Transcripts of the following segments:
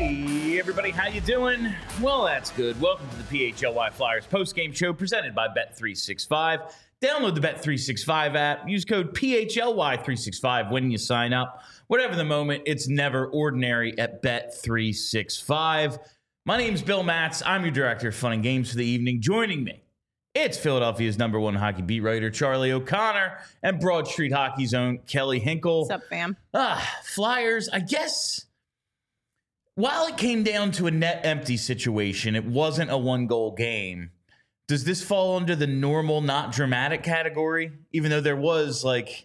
Hey, everybody, how you doing? Well, that's good. Welcome to the PHLY Flyers postgame show presented by Bet365. Download the Bet365 app. Use code PHLY365 when you sign up. Whatever the moment, it's never ordinary at Bet365. My name's Bill Matz. I'm your director of fun and games for the evening. Joining me, it's Philadelphia's #1 hockey beat writer, Charlie O'Connor, and Broad Street Hockey's own Kelly Hinkle. What's up, fam? Flyers, I guess, while it came down to a net empty situation, it wasn't a one-goal game. Does this fall under the normal, not dramatic category? Even though there was like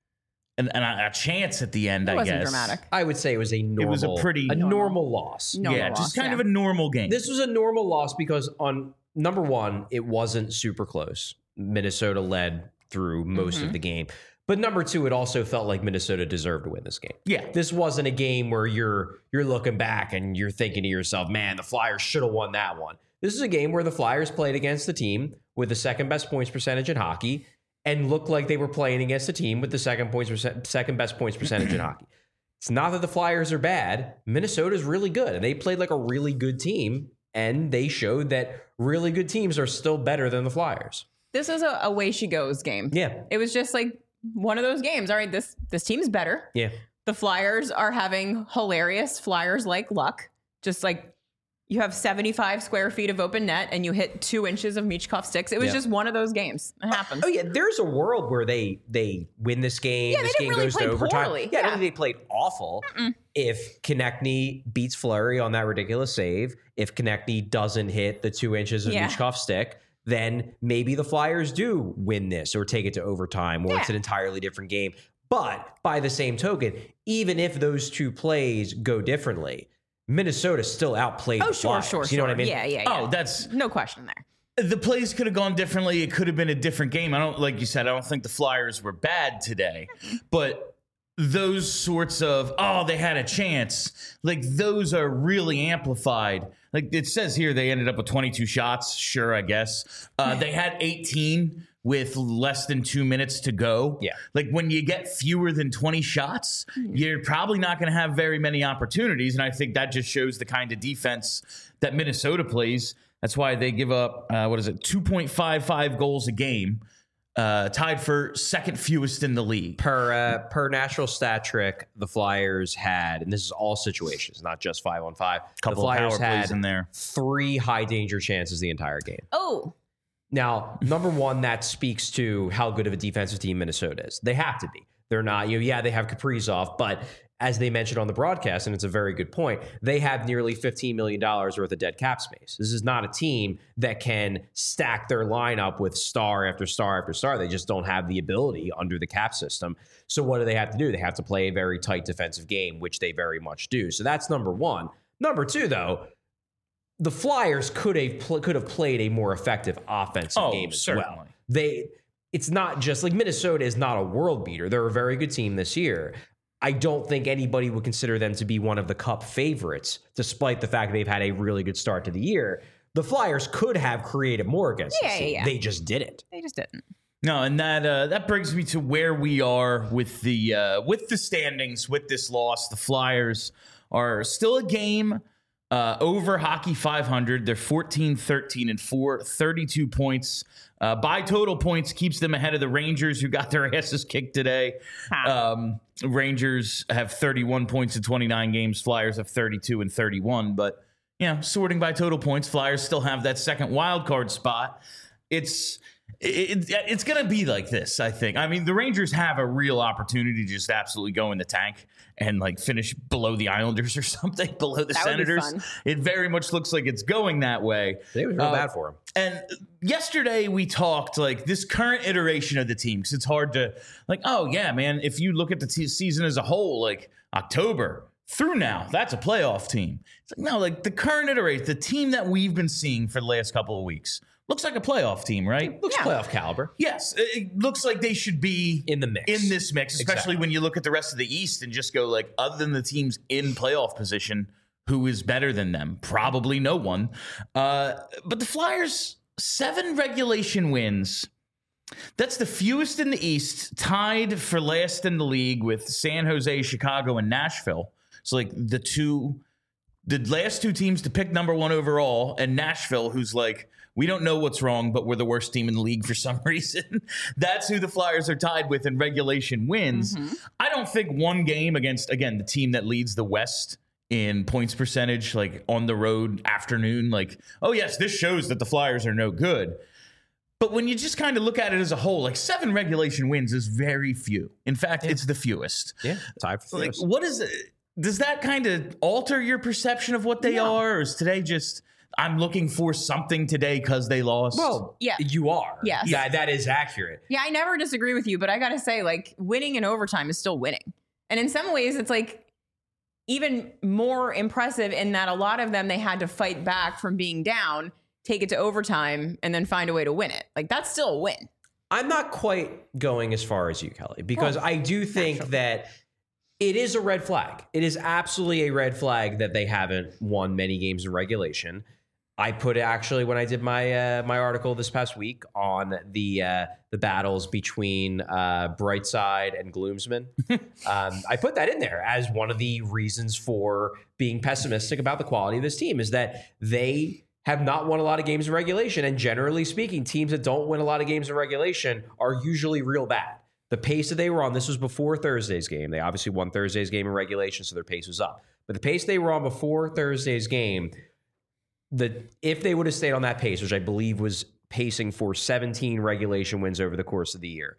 a chance at the end, It I wasn't guess. dramatic. I would say it was a normal loss. Normal loss, just kind of a normal game. This was a normal loss because on number one, it wasn't super close. Minnesota led through most of the game. But number two, it also felt like Minnesota deserved to win this game. Yeah. This wasn't a game where you're looking back and you're thinking to yourself, man, the Flyers should have won that one. This is a game where the Flyers played against the team with the second best points percentage in hockey and looked like they were playing against a team with the second best points percentage in hockey. It's not that the Flyers are bad. Minnesota's really good, and they played like a really good team, and they showed that really good teams are still better than the Flyers. This is a way she goes game. Yeah. It was just like one of those games. All right, this team's better. Yeah. The Flyers are having hilarious Flyers-like luck. Just like you have 75 square feet of open net and you hit 2 inches of Michkov sticks. It was just one of those games. It happens. Oh, yeah. There's a world where they win this game. Yeah, this they game didn't really goes play to overtime. poorly. Yeah, I don't Yeah. think they played awful. If Konechny beats Fleury on that ridiculous save, if Konechny doesn't hit the 2 inches of Michkov stick, then maybe the Flyers do win this or take it to overtime, or it's an entirely different game. But by the same token, even if those two plays go differently, Minnesota still outplayed the Flyers. You know what I mean? Yeah. Oh, that's no question there. the plays could have gone differently. It could have been a different game. Like you said, I don't think the Flyers were bad today, but those sorts of, they had a chance, like those are really amplified. Like it says here, they ended up with 22 shots. Sure, I guess. They had 18 with less than 2 minutes to go. Yeah. Like when you get fewer than 20 shots, you're probably not going to have very many opportunities. And I think that just shows the kind of defense that Minnesota plays. That's why they give up, 2.55 goals a game, tied for second fewest in the league. Per National Stat Trick, the Flyers had, and this is all situations, not just 5-on-5. Couple the Flyers of power plays had in there. 3 high danger chances the entire game. Oh, Now, number one, that speaks to how good of a defensive team Minnesota is. They have to be. They're not, they have Kaprizov, but as they mentioned on the broadcast, and it's a very good point, they have nearly $15 million worth of dead cap space. This is not a team that can stack their lineup with star after star after star. They just don't have the ability under the cap system. So what do they have to do? They have to play a very tight defensive game, which they very much do. So that's number one. Number two, though, the Flyers could have played a more effective offensive game as well. It's not just like Minnesota is not a world beater. They're a very good team this year. I don't think anybody would consider them to be one of the Cup favorites, despite the fact they've had a really good start to the year. The Flyers could have created more against this team. They just didn't. they just didn't. No, and that brings me to where we are with the standings with this loss. The Flyers are still a game over Hockey 500. They're 14-13-4, 32 points. By total points keeps them ahead of the Rangers, who got their asses kicked today. Rangers have 31 points in 29 games. Flyers have 32 and 31. But, sorting by total points, Flyers still have that second wild card spot. It's going to be like this, I think. I mean, the Rangers have a real opportunity to just absolutely go in the tank and like finish below the Islanders or something, below the Senators. It very much looks like it's going that way. It was real bad for them. And yesterday we talked like this current iteration of the team, because it's hard to like, if you look at the season as a whole, like October through now, that's a playoff team. It's like, no, like the current iteration, the team that we've been seeing for the last couple of weeks, looks like a playoff team, right? Looks playoff caliber. Yes, it looks like they should be in the mix. In this mix, especially when you look at the rest of the East and just go like, other than the teams in playoff position, who is better than them? Probably no one. But the Flyers, 7 regulation wins. That's the fewest in the East, tied for last in the league with San Jose, Chicago, and Nashville. So like the two the last two teams to pick number one overall, and Nashville, who's like, we don't know what's wrong, but we're the worst team in the league for some reason. That's who the Flyers are tied with in regulation wins. I don't think one game against, again, the team that leads the West in points percentage, like on the road afternoon, like, oh yes, this shows that the Flyers are no good. But when you just kind of look at it as a whole, like 7 regulation wins is very few. In fact, it's the fewest. Yeah, tied for Like, first. what is it? Does that kind of alter your perception of what they are? Or is today just, I'm looking for something today because they lost? Well, Yeah. you are. Yes. Yeah, that is accurate. Yeah, I never disagree with you, but I got to say, like, winning in overtime is still winning. And in some ways, it's like even more impressive in that a lot of them, they had to fight back from being down, take it to overtime, and then find a way to win it. Like, that's still a win. I'm not quite going as far as you, Kelly, because I do think that it is a red flag. It is absolutely a red flag that they haven't won many games in regulation. I put it actually when I did my my article this past week on the battles between Brightside and Gloomsman. I put that in there as one of the reasons for being pessimistic about the quality of this team is that they have not won a lot of games in regulation. And generally speaking, teams that don't win a lot of games in regulation are usually real bad. The pace that they were on, this was before Thursday's game. They obviously won Thursday's game in regulation, so their pace was up. But the pace they were on before Thursday's game, if they would have stayed on that pace, which I believe was pacing for 17 regulation wins over the course of the year,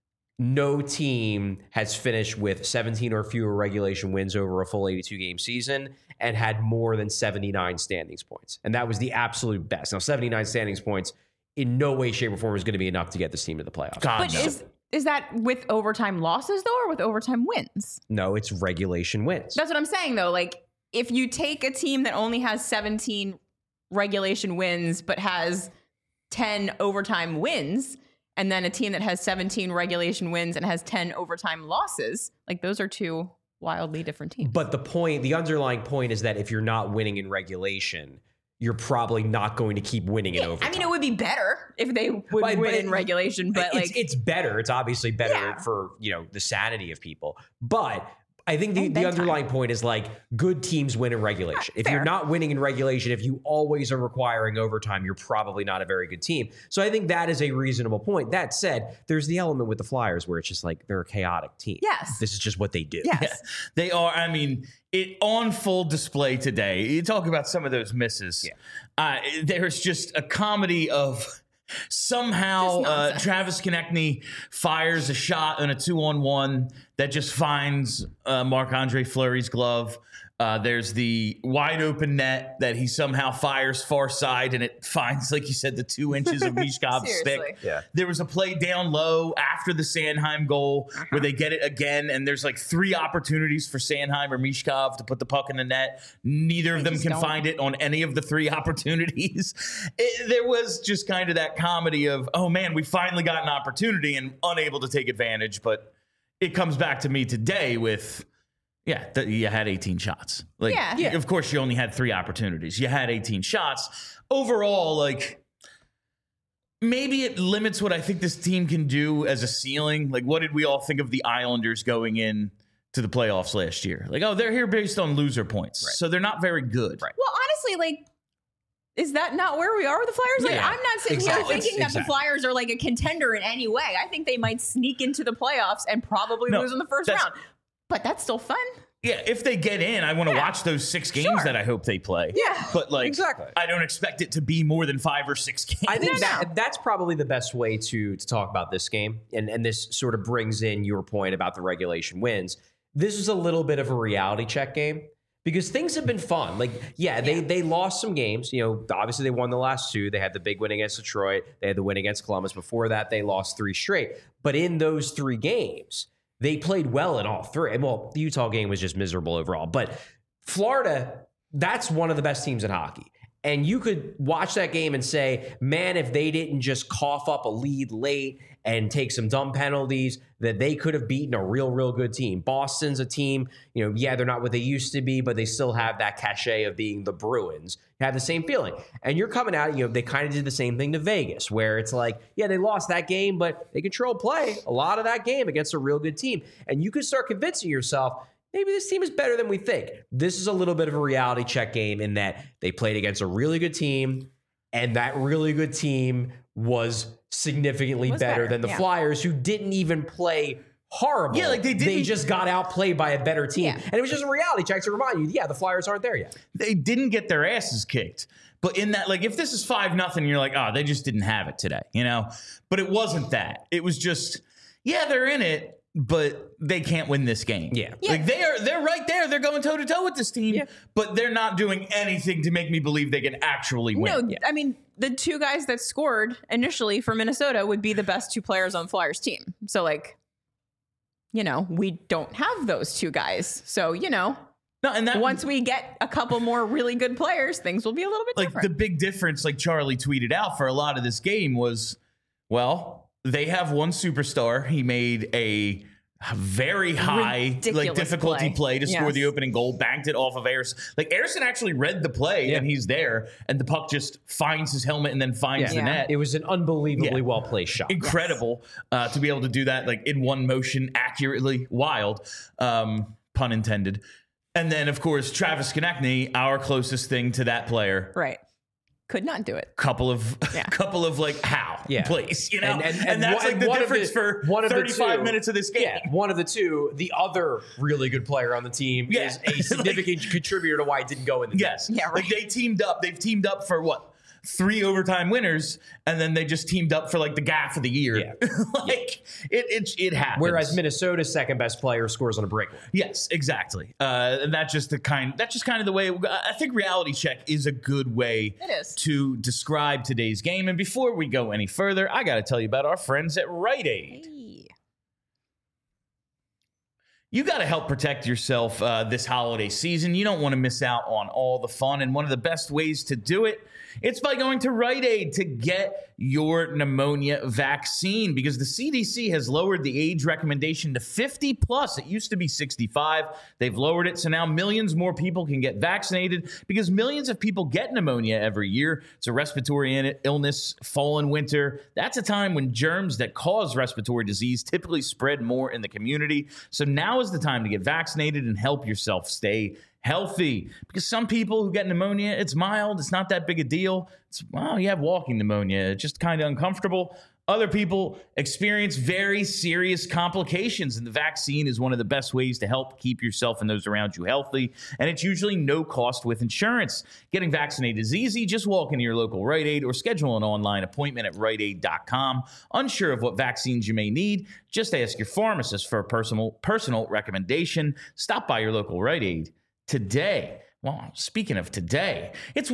no team has finished with 17 or fewer regulation wins over a full 82-game season and had more than 79 standings points. And that was the absolute best. Now, 79 standings points in no way, shape, or form is going to be enough to get this team to the playoffs. God, But no. is that with overtime losses, though, or with overtime wins? No, it's regulation wins. That's what I'm saying, though. Like, if you take a team that only has 17 regulation wins but has 10 overtime wins, and then a team that has 17 regulation wins and has 10 overtime losses, like, those are two wildly different teams. But the underlying point is that if you're not winning in regulation, you're probably not going to keep winning in overtime. I mean, it would be better if they would But win in regulation, but it's better. It's obviously better Yeah. for the sanity of people. But I think the bedtime. underlying point is like good teams win in regulation. If fair. you're not winning in regulation, if you always are requiring overtime, you're probably not a very good team. So I think that is a reasonable point. That said, there's the element with the Flyers where it's just like they're a chaotic team. Yes. This is just what they do. yes. They are, I mean, it on full display today. You talk about some of those misses. There's just a comedy of somehow Just nonsense. Travis Konechny fires a shot in a 2-on-1 that just finds Marc-Andre Fleury's glove. There's the wide open net that he somehow fires far side and it finds, like you said, the 2 inches of Mishkov's stick. Seriously. Yeah. There was a play down low after the Sanheim goal where they get it again, and there's like 3 opportunities for Sanheim or Mishkov to put the puck in the net. Neither of them just can don't. find it on any of the 3 opportunities. There was just kind of that comedy of, oh man, we finally got an opportunity and unable to take advantage. But it comes back to me today with, you had 18 shots. Like, Yeah. of course, you only had 3 opportunities. You had 18 shots. Overall, like, maybe it limits what I think this team can do as a ceiling. Like, what did we all think of the Islanders going in to the playoffs last year? Like, oh, they're here based on loser points. Right. So they're not very good. Right. Well, honestly, like, is that not where we are with the Flyers? Like, Yeah, I'm not sitting exactly. here thinking that the Exactly. Flyers are like a contender in any way. I think they might sneak into the playoffs and probably No, lose in the first that's- round. But that's still fun. Yeah, if they get in, I want to watch those 6 games Sure. that I hope they play. Yeah, But, like, exactly. I don't expect it to be more than 5 or 6 games. I think No. that's probably the best way to talk about this game. And this sort of brings in your point about the regulation wins. This is a little bit of a reality check game because things have been fun. Like, they lost some games. Obviously they won the last 2. They had the big win against Detroit. They had the win against Columbus. Before that, they lost 3 straight. But in those 3 games, they played well in all 3. Well, the Utah game was just miserable overall. But Florida, that's one of the best teams in hockey. And you could watch that game and say, man, if they didn't just cough up a lead late and take some dumb penalties, that they could have beaten a real good team. Boston's a team, they're not what they used to be, but they still have that cachet of being the Bruins. You have the same feeling. And you're coming out, they kind of did the same thing to Vegas, where it's like, they lost that game, but they controlled play a lot of that game against a real good team. And you could start convincing yourself, maybe this team is better than we think. This is a little bit of a reality check game in that they played against a really good team, and that really good team was significantly better than the Flyers, who didn't even play horrible. Yeah, like they just got outplayed by a better team. Yeah. And it was just a reality check to remind you, the Flyers aren't there yet. They didn't get their asses kicked. But in that, like, if this is 5-0, you're like, oh, they just didn't have it today, you know? But it wasn't that. It was just, yeah, they're in it, but they can't win this game. Yeah. Like, they're right there. They're going toe-to-toe with this team, but they're not doing anything to make me believe they can actually win. No, I mean, the two guys that scored initially for Minnesota would be the best two players on Flyers team. So, like, you know, we don't have those two guys. So, you know. No, and that, once we get a couple more really good players, things will be a little bit different. The big difference, like Charlie tweeted out for a lot of this game was, well, they have one superstar. He made a very high difficulty play to score the opening goal, banked it off of Ersson. Like, Ersson actually read the play and he's there, and the puck just finds his helmet and then finds the net. It was an unbelievably well-placed shot. Incredible to be able to do that, like, in one motion accurately. Wild, pun intended. And then, of course, Travis Konechny, our closest thing to that player. Right. Could not do it. Couple of like, how? Please, you know? And that's like the difference for 35 minutes of this game. Yeah, one of the two, the other really good player on the team is a significant contributor to why it didn't go in the game. Yeah, right. Like, they teamed up. They've teamed up for what? 3 overtime winners, and then they just teamed up for like the gaff of the year. Yeah. It happens. Whereas Minnesota's second best player scores on a breakaway. Yes, exactly. And that's just kind of the way. I think reality check is a good way to describe today's game. And before we go any further, I got to tell you about our friends at Rite Aid. You got to help protect yourself this holiday season. You don't want to miss out on all the fun. And one of the best ways to do it, it's by going to Rite Aid to get your pneumonia vaccine, because the CDC has lowered the age recommendation to 50 plus. It used to be 65. They've lowered it. So now millions more people can get vaccinated, because millions of people get pneumonia every year. It's a respiratory illness, fall and winter. That's a time when germs that cause respiratory disease typically spread more in the community. So now is the time to get vaccinated and help yourself stay healthy, because some people who get pneumonia, it's mild, it's not that big a deal. It's, well, you have walking pneumonia, it's just kind of uncomfortable. Other people experience very serious complications, and the vaccine is one of the best ways to help keep yourself and those around you healthy, and it's usually no cost with insurance. Getting vaccinated is easy. Just walk into your local Rite Aid or schedule an online appointment at riteaid.com. Unsure of what vaccines you may need? Just ask your pharmacist for a personal recommendation. Stop by your local Rite Aid today. Well, speaking of today, it's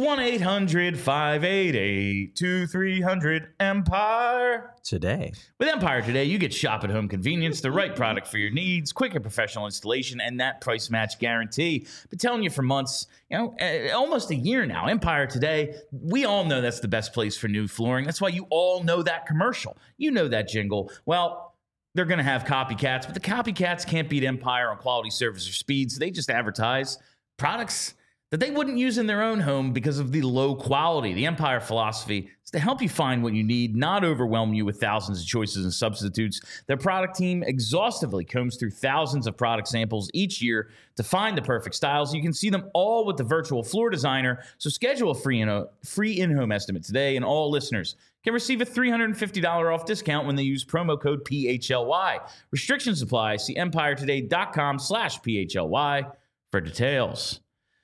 1-800-588-2300 Empire. With Empire Today, you get shop at home convenience, the right product for your needs, quick and professional installation, and that price match guarantee. Been telling you for months, almost a year now, Empire Today, we all know that's the best place for new flooring. That's why you all know that commercial. You know that jingle. Well, they're going to have copycats, but the copycats can't beat Empire on quality, service, or speed, so they just advertise products that they wouldn't use in their own home because of the low quality. The Empire philosophy is to help you find what you need, not overwhelm you with thousands of choices and substitutes. Their product team exhaustively combs through thousands of product samples each year to find the perfect styles. You can see them all with the virtual floor designer. So schedule a free in-home estimate today, and all listeners can receive a $350 off discount when they use promo code PHLY. Restrictions apply. See empiretoday.com/PHLY for details.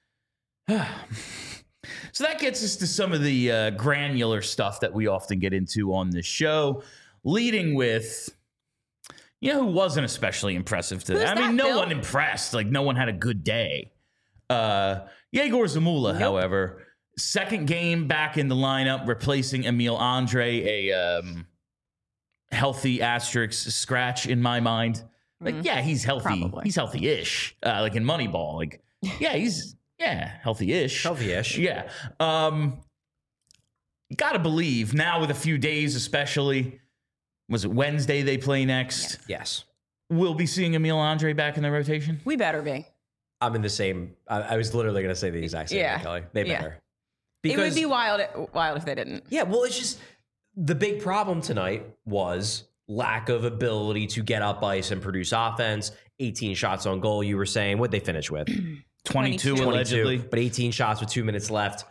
So that gets us to some of the granular stuff that we often get into on this show, leading with, who wasn't especially impressive today. I mean, no one impressed. Like, no one had a good day. Yegor Zamula, however, second game back in the lineup, replacing Emil Andre, a healthy asterisk scratch in my mind. Like, yeah, he's healthy. Probably. He's healthy-ish. Like in Moneyball. Like, yeah, he's... Yeah, healthy-ish. Healthy-ish. Yeah. Got to believe now, with a few days especially, was it Wednesday they play next? Yes. We'll be seeing Emil Andre back in the rotation? We better be. I'm in the same. I was literally going to say the exact same thing, Kelly. They better. Because, it would be wild if they didn't. Yeah, well, it's just the big problem tonight was lack of ability to get up ice and produce offense. 18 shots on goal, you were saying. What'd they finish with? 22 allegedly. But 18 shots with 2 minutes left.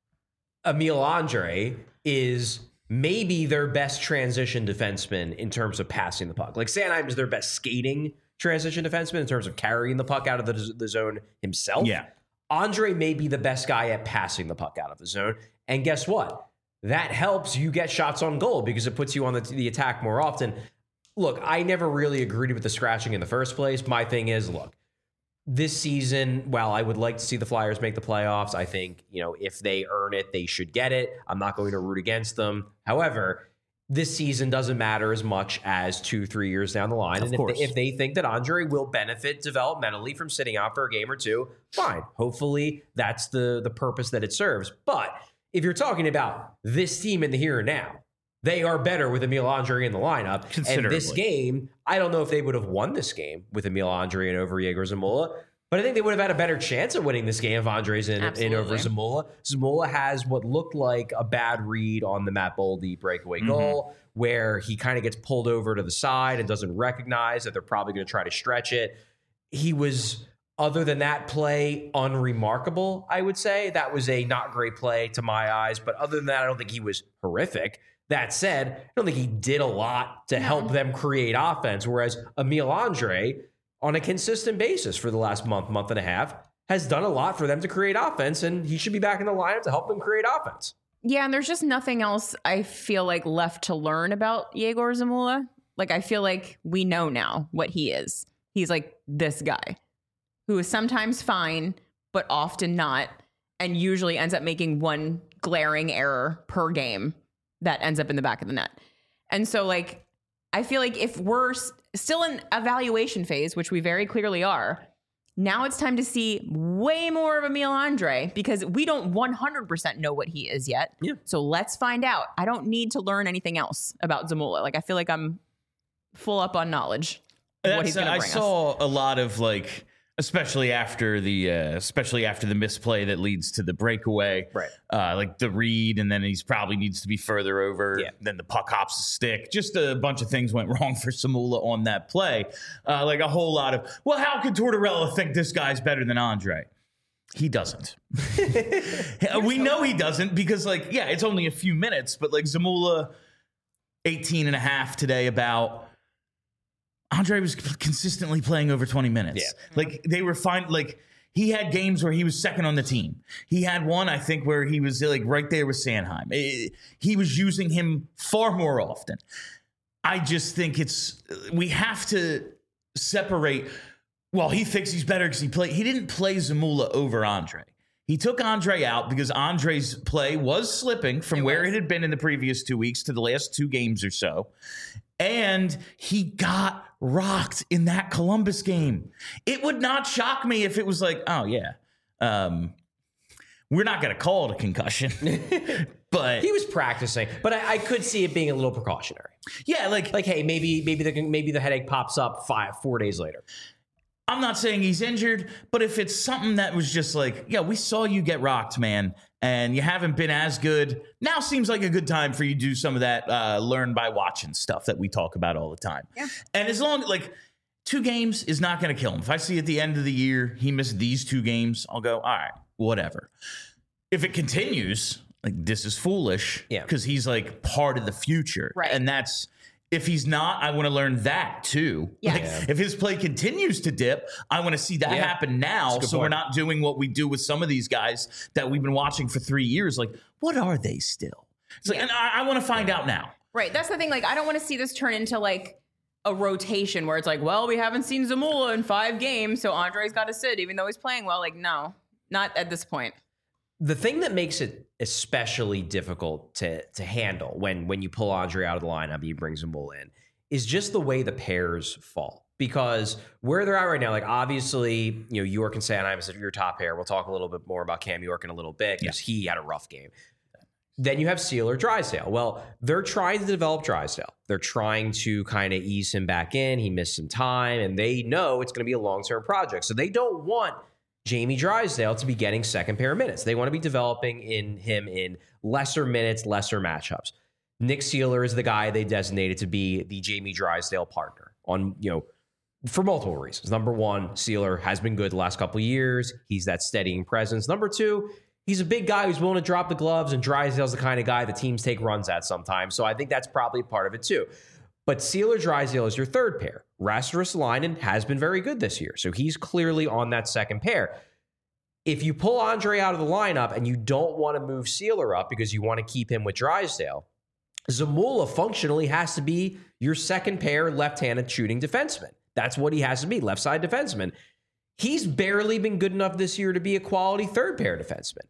Emil Andre is maybe their best transition defenseman in terms of passing the puck. Like Sanheim is their best skating transition defenseman in terms of carrying the puck out of the zone himself. Yeah. Andre may be the best guy at passing the puck out of the zone. And guess what? That helps you get shots on goal because it puts you on the attack more often. Look, I never really agreed with the scratching in the first place. My thing is, look, this season, while I would like to see the Flyers make the playoffs, I think, if they earn it, they should get it. I'm not going to root against them. However, this season doesn't matter as much as 2-3 years down the line. And if they think that Andre will benefit developmentally from sitting out for a game or two, fine. Hopefully that's the purpose that it serves. But if you're talking about this team in the here and now, they are better with Emil Andre in the lineup. And this game, I don't know if they would have won this game with Emil Andre and over Yegor Zamula, but I think they would have had a better chance of winning this game if Andre's in over Zamula. Zamula has what looked like a bad read on the Matt Boldy breakaway goal, where he kind of gets pulled over to the side and doesn't recognize that they're probably going to try to stretch it. He was, other than that play, unremarkable, I would say. That was a not great play to my eyes, but other than that, I don't think he was horrific. That said, I don't think he did a lot to help them create offense, whereas Emil Andre, on a consistent basis for the last month and a half, has done a lot for them to create offense, and he should be back in the lineup to help them create offense. Yeah, and there's just nothing else I feel like left to learn about Yegor Zamula. Like, I feel like we know now what he is. He's like this guy who is sometimes fine, but often not, and usually ends up making one glaring error per game that ends up in the back of the net. And so, like, I feel like if we're still in evaluation phase, which we very clearly are, now it's time to see way more of Emil Andre because we don't 100% know what he is yet. Yeah. So let's find out. I don't need to learn anything else about Zamula. Like, I feel like I'm full up on knowledge of what he's going to bring us. I saw a lot of, like, especially after the misplay that leads to the breakaway, right? Like the read, and then he's probably needs to be further over. Yeah. Then the puck hops the stick. Just a bunch of things went wrong for Zamula on that play. Like a whole lot of, well, how could Tortorella think this guy's better than Andre? He doesn't. We know he doesn't because, like, yeah, it's only a few minutes, but like Zamula, 18 and a half today about. Andre was consistently playing over 20 minutes. Yeah. Like, they were fine. Like, he had games where he was second on the team. He had one, I think, where he was like right there with Sanheim. He was using him far more often. I just think we have to separate. Well, he thinks he's better because he didn't play Zamula over Andre. He took Andre out because Andre's play was slipping from where it had been in the previous 2 weeks to the last 2 games or so. And he got rocked in that Columbus game. It would not shock me if it was like, oh, yeah, we're not going to call it a concussion. But he was practicing. But I could see it being a little precautionary. Yeah, like hey, maybe the headache pops up 4 days later. I'm not saying he's injured, but if it's something that was just like, yeah, we saw you get rocked, man, and you haven't been as good, now seems like a good time for you to do some of that learn by watching stuff that we talk about all the time. Yeah. And as long, like, 2 games is not going to kill him. If I see at the end of the year he missed these 2 games, I'll go, all right, whatever. If it continues, like, this is foolish because he's, like, part of the future. Right. And that's... If he's not, I want to learn that too. Yes. Like, if his play continues to dip, I want to see that happen now. So we're not doing what we do with some of these guys that we've been watching for 3 years. Like, what are they still? It's like, and I want to find out now. Right. That's the thing. Like, I don't want to see this turn into like a rotation where it's like, well, we haven't seen Zamula in 5 games, so Andre's got to sit even though he's playing well. Like, no, not at this point. The thing that makes it especially difficult to handle when you pull Andre out of the lineup and you bring Zamula in is just the way the pairs fall. Because where they're at right now, like, obviously, York and Sanheim is your top pair. We'll talk a little bit more about Cam York in a little bit because he had a rough game. Then you have Sealer, Drysdale. Well, they're trying to develop Drysdale. They're trying to kind of ease him back in. He missed some time, and they know it's going to be a long-term project. So they don't want Jamie Drysdale to be getting second pair minutes. They want to be developing him in lesser minutes, lesser matchups. Nick Seeler is the guy they designated to be the Jamie Drysdale partner on, for multiple reasons. Number one, Seeler has been good the last couple of years. He's that steadying presence. Number two, he's a big guy who's willing to drop the gloves, and Drysdale's the kind of guy the teams take runs at sometimes. So I think that's probably part of it too. But Seeler Drysdale is your third pair. Rasmus Ristolainen has been very good this year, so he's clearly on that second pair. If you pull Andre out of the lineup and you don't want to move Seeler up because you want to keep him with Drysdale, Zamula functionally has to be your second pair left-handed shooting defenseman. That's what he has to be, left side defenseman. He's barely been good enough this year to be a quality third pair defenseman.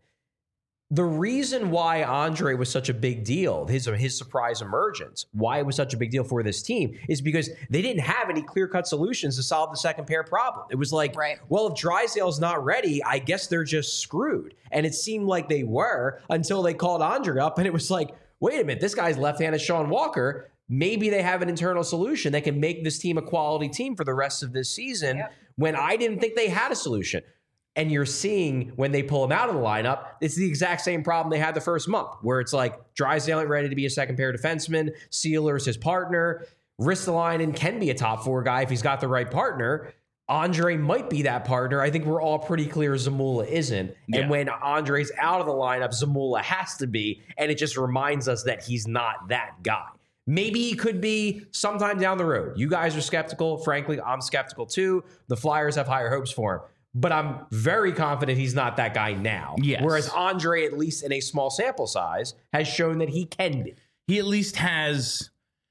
The reason why Andre was such a big deal, his surprise emergence, why it was such a big deal for this team is because they didn't have any clear-cut solutions to solve the second pair problem. It was like, well, if Drysdale's not ready, I guess they're just screwed. And it seemed like they were until they called Andre up, and it was like, wait a minute, this guy's left-handed Sean Walker. Maybe they have an internal solution that can make this team a quality team for the rest of this season when I didn't think they had a solution. And you're seeing when they pull him out of the lineup, it's the exact same problem they had the first month, where it's like Drysdale ain't ready to be a second pair defenseman. Seeler's his partner. Ristolainen can be a top four guy if he's got the right partner. Andre might be that partner. I think we're all pretty clear Zamula isn't. Yeah. And when Andre's out of the lineup, Zamula has to be. And it just reminds us that he's not that guy. Maybe he could be sometime down the road. You guys are skeptical. Frankly, I'm skeptical too. The Flyers have higher hopes for him. But I'm very confident he's not that guy now. Yes. Whereas Andre, at least in a small sample size, has shown that he can be. He at least has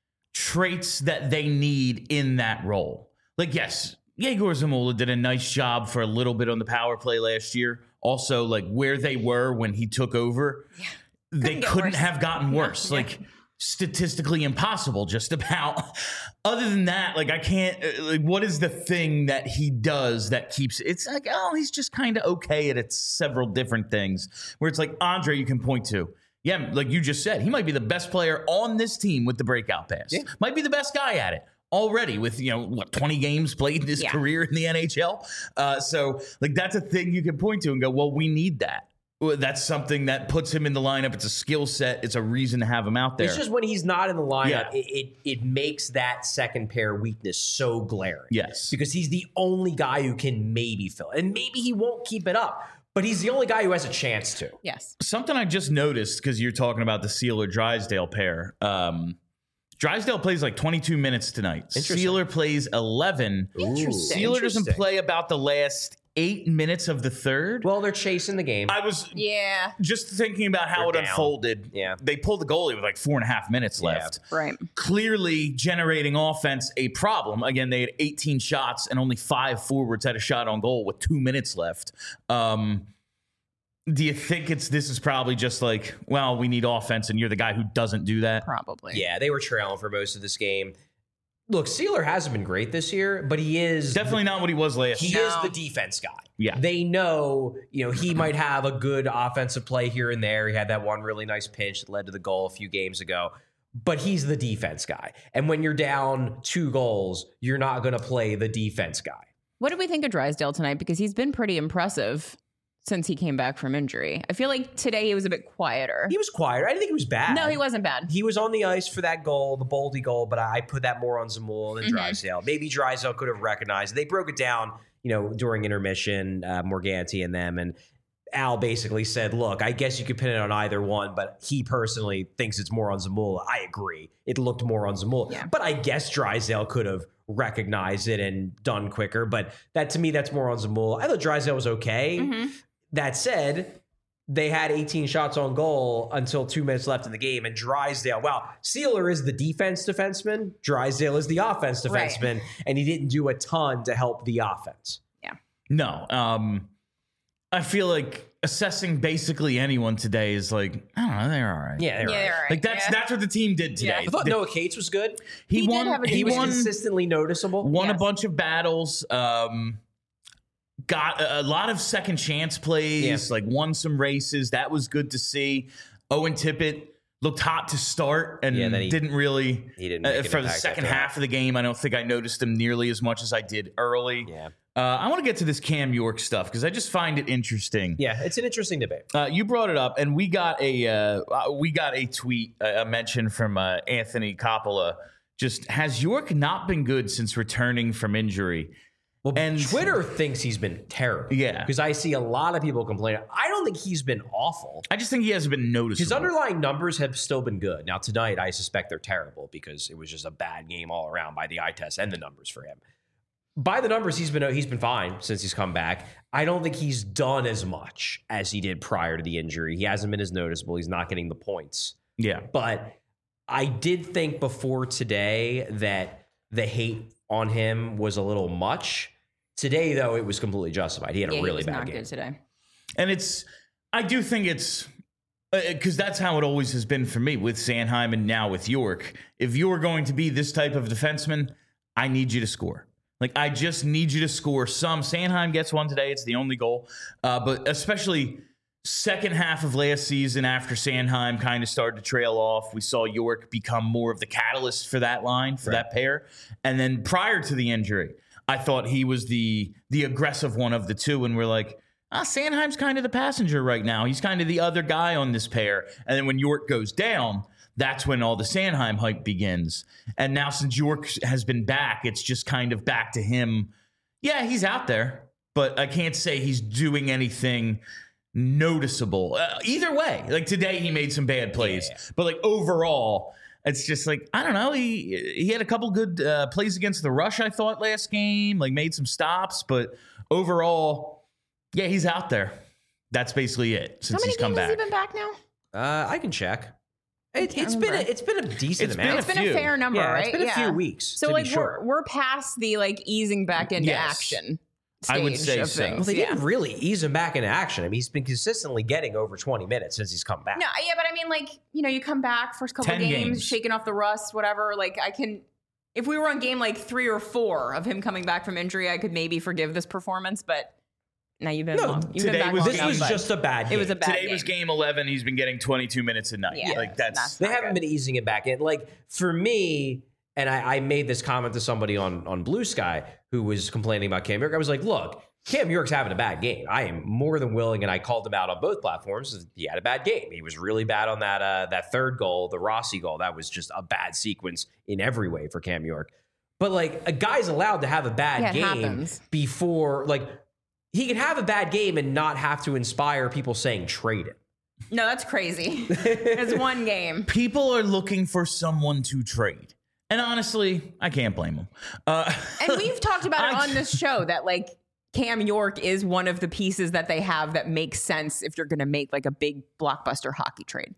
traits that they need in that role. Like, yes, Yegor Zamula did a nice job for a little bit on the power play last year. Also, like, where they were when he took over, they couldn't have gotten worse. Like, statistically impossible, just about. Other than that, like, I can't, like, what is the thing that he does that keeps, it's like, oh, he's just kind of okay at several different things where it's like Andre you can point to. Yeah, like you just said, he might be the best player on this team with the breakout pass. Yeah. Might be the best guy at it already with, 20 games played in his career in the NHL. So, like, that's a thing you can point to and go, well, we need that. That's something that puts him in the lineup. It's a skill set. It's a reason to have him out there. It's just when he's not in the lineup, it makes that second pair weakness so glaring. Yes. Because he's the only guy who can maybe fill it. And maybe he won't keep it up, but he's the only guy who has a chance to. Yes. Something I just noticed, because you're talking about the Seeler-Drysdale pair. Drysdale plays like 22 minutes tonight. Seeler plays 11. Interesting. Seeler doesn't play about the last 8 minutes of the third. Well, they're chasing the game. I was just thinking about how it unfolded. Yeah. They pulled the goalie with like 4.5 minutes left. Right. Clearly generating offense a problem. Again, they had 18 shots and only 5 forwards had a shot on goal with 2 minutes left. Do you think this is probably just like, well, we need offense and you're the guy who doesn't do that? Probably. Yeah, they were trailing for most of this game. Look, Seeler hasn't been great this year, but he is definitely not what he was last year. He is the defense guy. Yeah. They know, he might have a good offensive play here and there. He had that one really nice pinch that led to the goal a few games ago, but he's the defense guy. And when you're down 2 goals, you're not going to play the defense guy. What did we think of Drysdale tonight? Because he's been pretty impressive since he came back from injury. I feel like today he was a bit quieter. He was quieter. I didn't think he was bad. No, he wasn't bad. He was on the ice for that goal, the Boldy goal, but I put that more on Zamula than Drysdale. Maybe Drysdale could have recognized it. They broke it down, during intermission, Morganti and them, and Al basically said, look, I guess you could pin it on either one, but he personally thinks it's more on Zamula. I agree. It looked more on Zamula. Yeah. But I guess Drysdale could have recognized it and done quicker, but to me, that's more on Zamula. I thought Drysdale was okay. Mm-hmm. That said, they had 18 shots on goal until 2 minutes left in the game. And Drysdale, Seeler is the defenseman. Drysdale is the offense defenseman. Right. And he didn't do a ton to help the offense. Yeah. No. I feel like assessing basically anyone today is like, I don't know, they're all right. Yeah, they're all right. Like that's what the team did today. Yeah. I thought Noah Cates was good. He won. He was consistently noticeable. Won a bunch of battles. Got a lot of second chance plays, like won some races. That was good to see. Owen Tippett looked hot to start and then he didn't really. He didn't make an for the impact second after half of the game. I don't think I noticed him nearly as much as I did early. Yeah. I want to get to this Cam York stuff because I just find it interesting. Yeah, it's an interesting debate. You brought it up, and we got a tweet, a mention from Anthony Coppola. Just, has York not been good since returning from injury? Well, And- Twitter thinks he's been terrible. Yeah. Because I see a lot of people complaining. I don't think he's been awful. I just think he hasn't been noticeable. His underlying numbers have still been good. Now, tonight, I suspect they're terrible because it was just a bad game all around by the eye test and the numbers for him. By the numbers, he's been fine since he's come back. I don't think he's done as much as he did prior to the injury. He hasn't been as noticeable. He's not getting the points. Yeah. But I did think before today that the hate on him was a little much. Today, though, it was completely justified. He had a really he was bad not game. good today. And I do think it's because that's how it always has been for me with Sanheim and now with York. If you're going to be this type of defenseman, I need you to score. Like, I just need you to score some. Sanheim gets one today. It's the only goal. But especially second half of last season after Sanheim kind of started to trail off, we saw York become more of the catalyst for that line, for that pair. And then prior to the injury, I thought he was the aggressive one of the two. And we're like, Sanheim's kind of the passenger right now. He's kind of the other guy on this pair. And then when York goes down, that's when all the Sanheim hype begins. And now since York has been back, it's just kind of back to him. Yeah, he's out there, but I can't say he's doing anything noticeable. Either way, like today he made some bad plays, but like overall, it's just like, I don't know. He had a couple good plays against the Rush, I thought, last game, like made some stops, but overall, yeah, he's out there. That's basically it since he's come back. How many games has he been back now? I can check. It's been a decent amount. It's been a fair number, right? It's been a few weeks. So to like be sure. we're past the like easing back into action stage I would say of so. things. Well, they didn't really ease him back into action. I mean, he's been consistently getting over 20 minutes since he's come back. No, yeah, but I mean, like, you come back first couple 10 games, games. shaking off the rust, whatever. Like, if we were on game like 3 or 4 of him coming back from injury, I could maybe forgive this performance. But now you've been today was This was just a bad game. It was a bad Today game. was game 11. He's been getting 22 minutes a night. Yeah, like that's They haven't been easing it back in. Like, for me, and I made this comment to somebody on Blue Sky who was complaining about Cam York. I was like, look, Cam York's having a bad game. I am more than willing, and I called him out on both platforms. He had a bad game. He was really bad on that third goal, the Rossi goal. That was just a bad sequence in every way for Cam York. But, like, a guy's allowed to have a bad game before, like, he can have a bad game and not have to inspire people saying trade him. No, that's crazy. It's one game. people are looking for someone to trade. And honestly, I can't blame them. And we've talked about it on this show that, like, Cam York is one of the pieces that they have that makes sense if you're going to make like a big blockbuster hockey trade.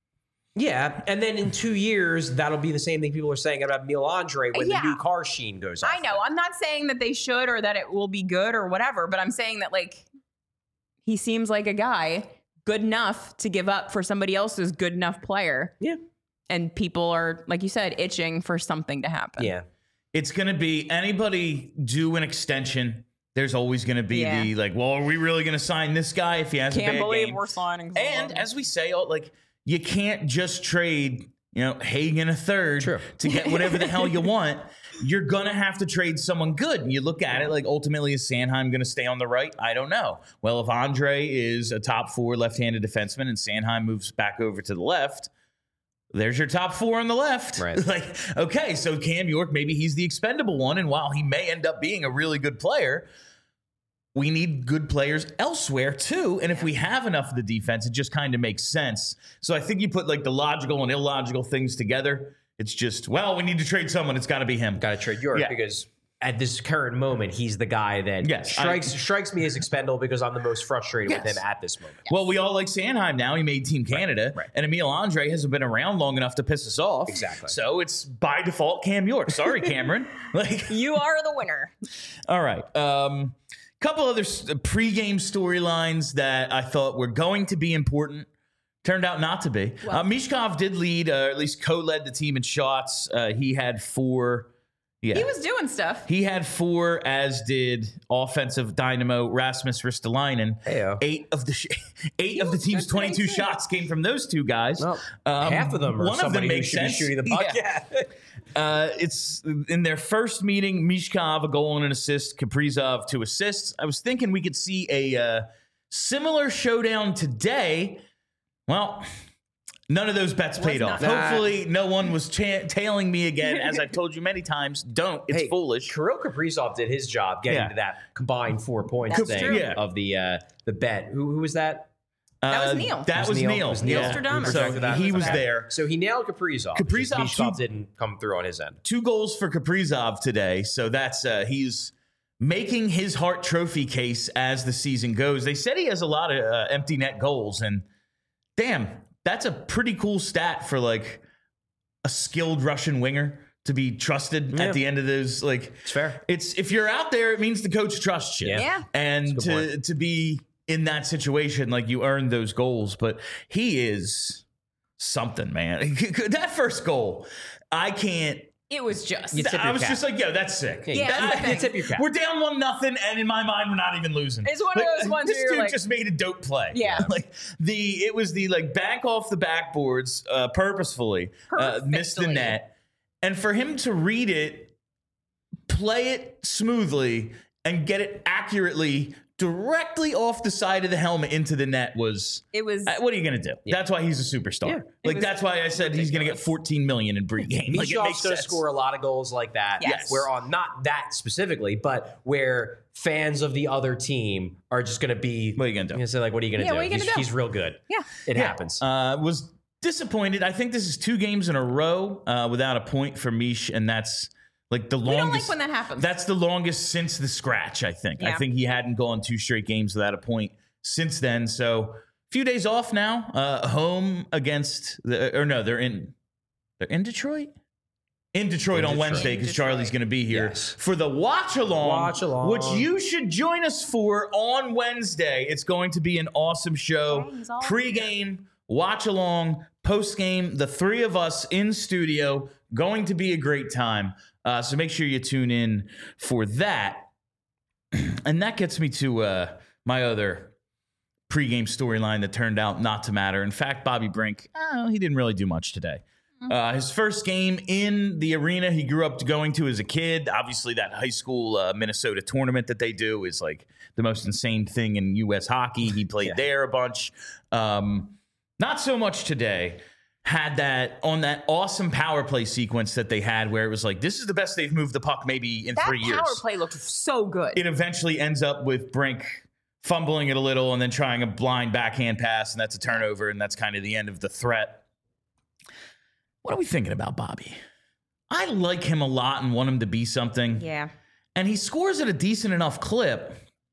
Yeah, and then in 2 years, that'll be the same thing people are saying about Emil Andre when the new car sheen goes off. I know. I'm not saying that they should or that it will be good or whatever, but I'm saying that, like, he seems like a guy good enough to give up for somebody else's good enough player. Yeah. And people are, like you said, itching for something to happen. Yeah. It's going to be anybody do an extension. There's always going to be the like, well, are we really going to sign this guy if he has a bad game? Can't believe we're signing someone. And as we say, like, you can't just trade, Hagen a third to get whatever the hell you want. You're going to have to trade someone good. And you look at it like, ultimately, is Sanheim going to stay on the right? I don't know. Well, if Andre is a top 4 left-handed defenseman and Sanheim moves back over to the left, there's your top 4 on the left. Right. Like, okay, so Cam York, maybe he's the expendable one. And while he may end up being a really good player, we need good players elsewhere too. And if we have enough of the defense, it just kind of makes sense. So I think you put like the logical and illogical things together. It's just, well, we need to trade someone. It's got to be him. Got to trade York because at this current moment, he's the guy that strikes me as expendable because I'm the most frustrated with him at this moment. Well, we all like Sanheim now. He made Team Canada. Right. And Emil Andre hasn't been around long enough to piss us off. Exactly. So it's by default Cam York. Sorry, Cameron. You are the winner. All right. Couple other pregame storylines that I thought were going to be important. Turned out not to be. Mishkov did lead, at least co-led the team in shots. He had 4 Yeah. He was doing stuff. He had 4, as did offensive dynamo Rasmus Ristolainen. Heyo. 8 of the team's 22 shots came from those two guys. Well, half of them are one of them somebody who makes should be sense. shooting the puck. Yeah. It's in their first meeting, Mishkov a goal and an assist, Kaprizov 2 assists. I was thinking we could see a similar showdown today. Well, none of those bets paid off. not. Hopefully, no one was tailing me again. As I've told you many times, don't. It's foolish. Kirill Kaprizov did his job getting to that combined 4 points That's thing true. Yeah. of the bet. Who was that? That was Neil. That was Neil. It was Neil. Yeah. Stradamus. So he was Okay. there. So he nailed Kaprizov. Kaprizov, Mishkov too. didn't come through on his end. 2 goals for Kaprizov today. So that's he's making his Hart Trophy case as the season goes. They said he has a lot of empty net goals, and damn, that's a pretty cool stat for like a skilled Russian winger to be trusted at the end of those. Like, It's fair. It's if you're out there, it means the coach trusts you. Yeah. And That's a good to be in that situation, like you earned those goals, but he is something, man. That first goal, I can't. It was just. You tip your I was cap. just like, yo, that's sick. Yeah, that's the you thing. tip your cap. We're down 1-0, and in my mind, we're not even losing. It's one of those ones This where you're dude like- just made a dope play. Yeah. like it was the like back off the backboards purposefully, missed the Perfectly. net, and for him to read it, play it smoothly, and get it accurately directly off the side of the helmet into the net was. It was. What are you gonna do? That's why he's a superstar. Yeah. Like was that's why I said he's gonna get 14 million in pregame. Like it Mishov's makes going to sense. score a lot of goals like that. Yes. Where on not that specifically, but where fans of the other team are just going to be. What are you gonna do? Gonna say like, what are you going to Yeah, do? what are you gonna do? He's real good. Yeah. It happens. Was disappointed. I think this is 2 games in a row without a point for Mish, and that's like the We don't longest. like when that happens. That's the longest since the scratch. I think. I Yeah. think he hadn't gone 2 straight games without a point since then. So a few days off now. Home against they're in Detroit. In Detroit on Detroit. Wednesday because Detroit. Charlie's going to be here Yes. for the watch along, which Watch-along. you should join us for on Wednesday. It's going to be an awesome show. Gangs all Pre-game, watch along, post-game, the 3 of us in studio. Going to be a great time. So make sure you tune in for that. And that gets me to my other pre-game storyline that turned out not to matter. In fact, Bobby Brink, he didn't really do much today. His first game in the arena he grew up going to as a kid. Obviously, that high school Minnesota tournament that they do is like the most insane thing in U.S. hockey. He played there a bunch. Not so much today. Had that on that awesome power play sequence that they had where it was like, this is the best they've moved the puck maybe in that 3 years. power play looked so good. It eventually ends up with Brink fumbling it a little and then trying a blind backhand pass, and that's a turnover, and that's kind of the end of the threat. What are we thinking about Bobby? I like him a lot and want him to be something. Yeah. And he scores at a decent enough clip.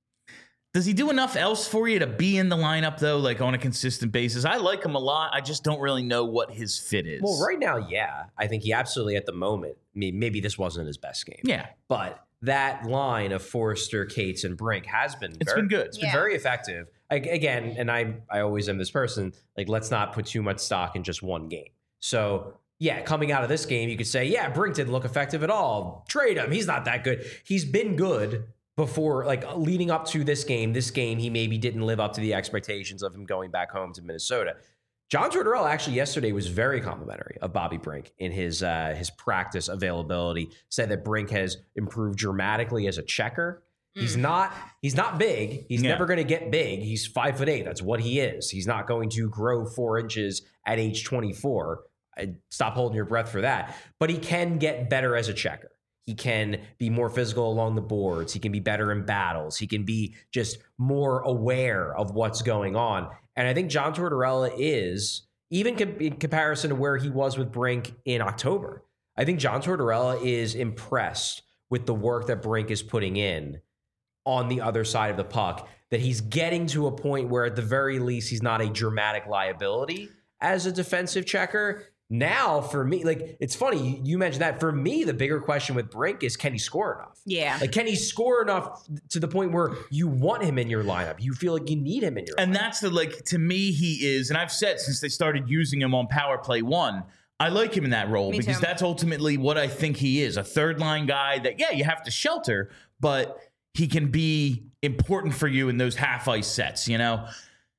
Does he do enough else for you to be in the lineup, though, like on a consistent basis? I like him a lot. I just don't really know what his fit is. Well, right now, yeah. I think he absolutely, at the moment, I mean, maybe this wasn't his best game. Yeah. But that line of Forrester, Cates, and Brink has been It's been good. It's been Yeah. very effective. Again, and I always am this person, like, let's not put too much stock in just one game. So, yeah, coming out of this game, you could say, yeah, Brink didn't look effective at all. Trade him. He's not that good. He's been good before, like, leading up to this game. This game, he maybe didn't live up to the expectations of him going back home to Minnesota. John Tortorella actually yesterday was very complimentary of Bobby Brink in his practice availability. Said that Brink has improved dramatically as a checker. He's not big. He's never going to get big. He's 5'8". That's what he is. He's not going to grow 4 inches at age 24. Stop holding your breath for that. But he can get better as a checker. He can be more physical along the boards. He can be better in battles. He can be just more aware of what's going on. And I think John Tortorella is, even in comparison to where he was with Brink in October, I think John Tortorella is impressed with the work that Brink is putting in on the other side of the puck, that he's getting to a point where at the very least he's not a dramatic liability as a defensive checker. Now, for me, like, it's funny, you mentioned that. For me, the bigger question with Brink is, can he score enough? Yeah. Like, can he score enough to the point where you want him in your lineup? You feel like you need him in your lineup. And that's the, like, to me, he is, and I've said since they started using him on Power Play 1, I like him in that role Me because too. that's ultimately what I think he is. A third line guy that, yeah, you have to shelter, but he can be important for you in those half ice sets, you know?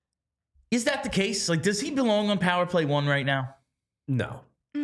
Is that the case? Like, does he belong on power play 1 right now? No.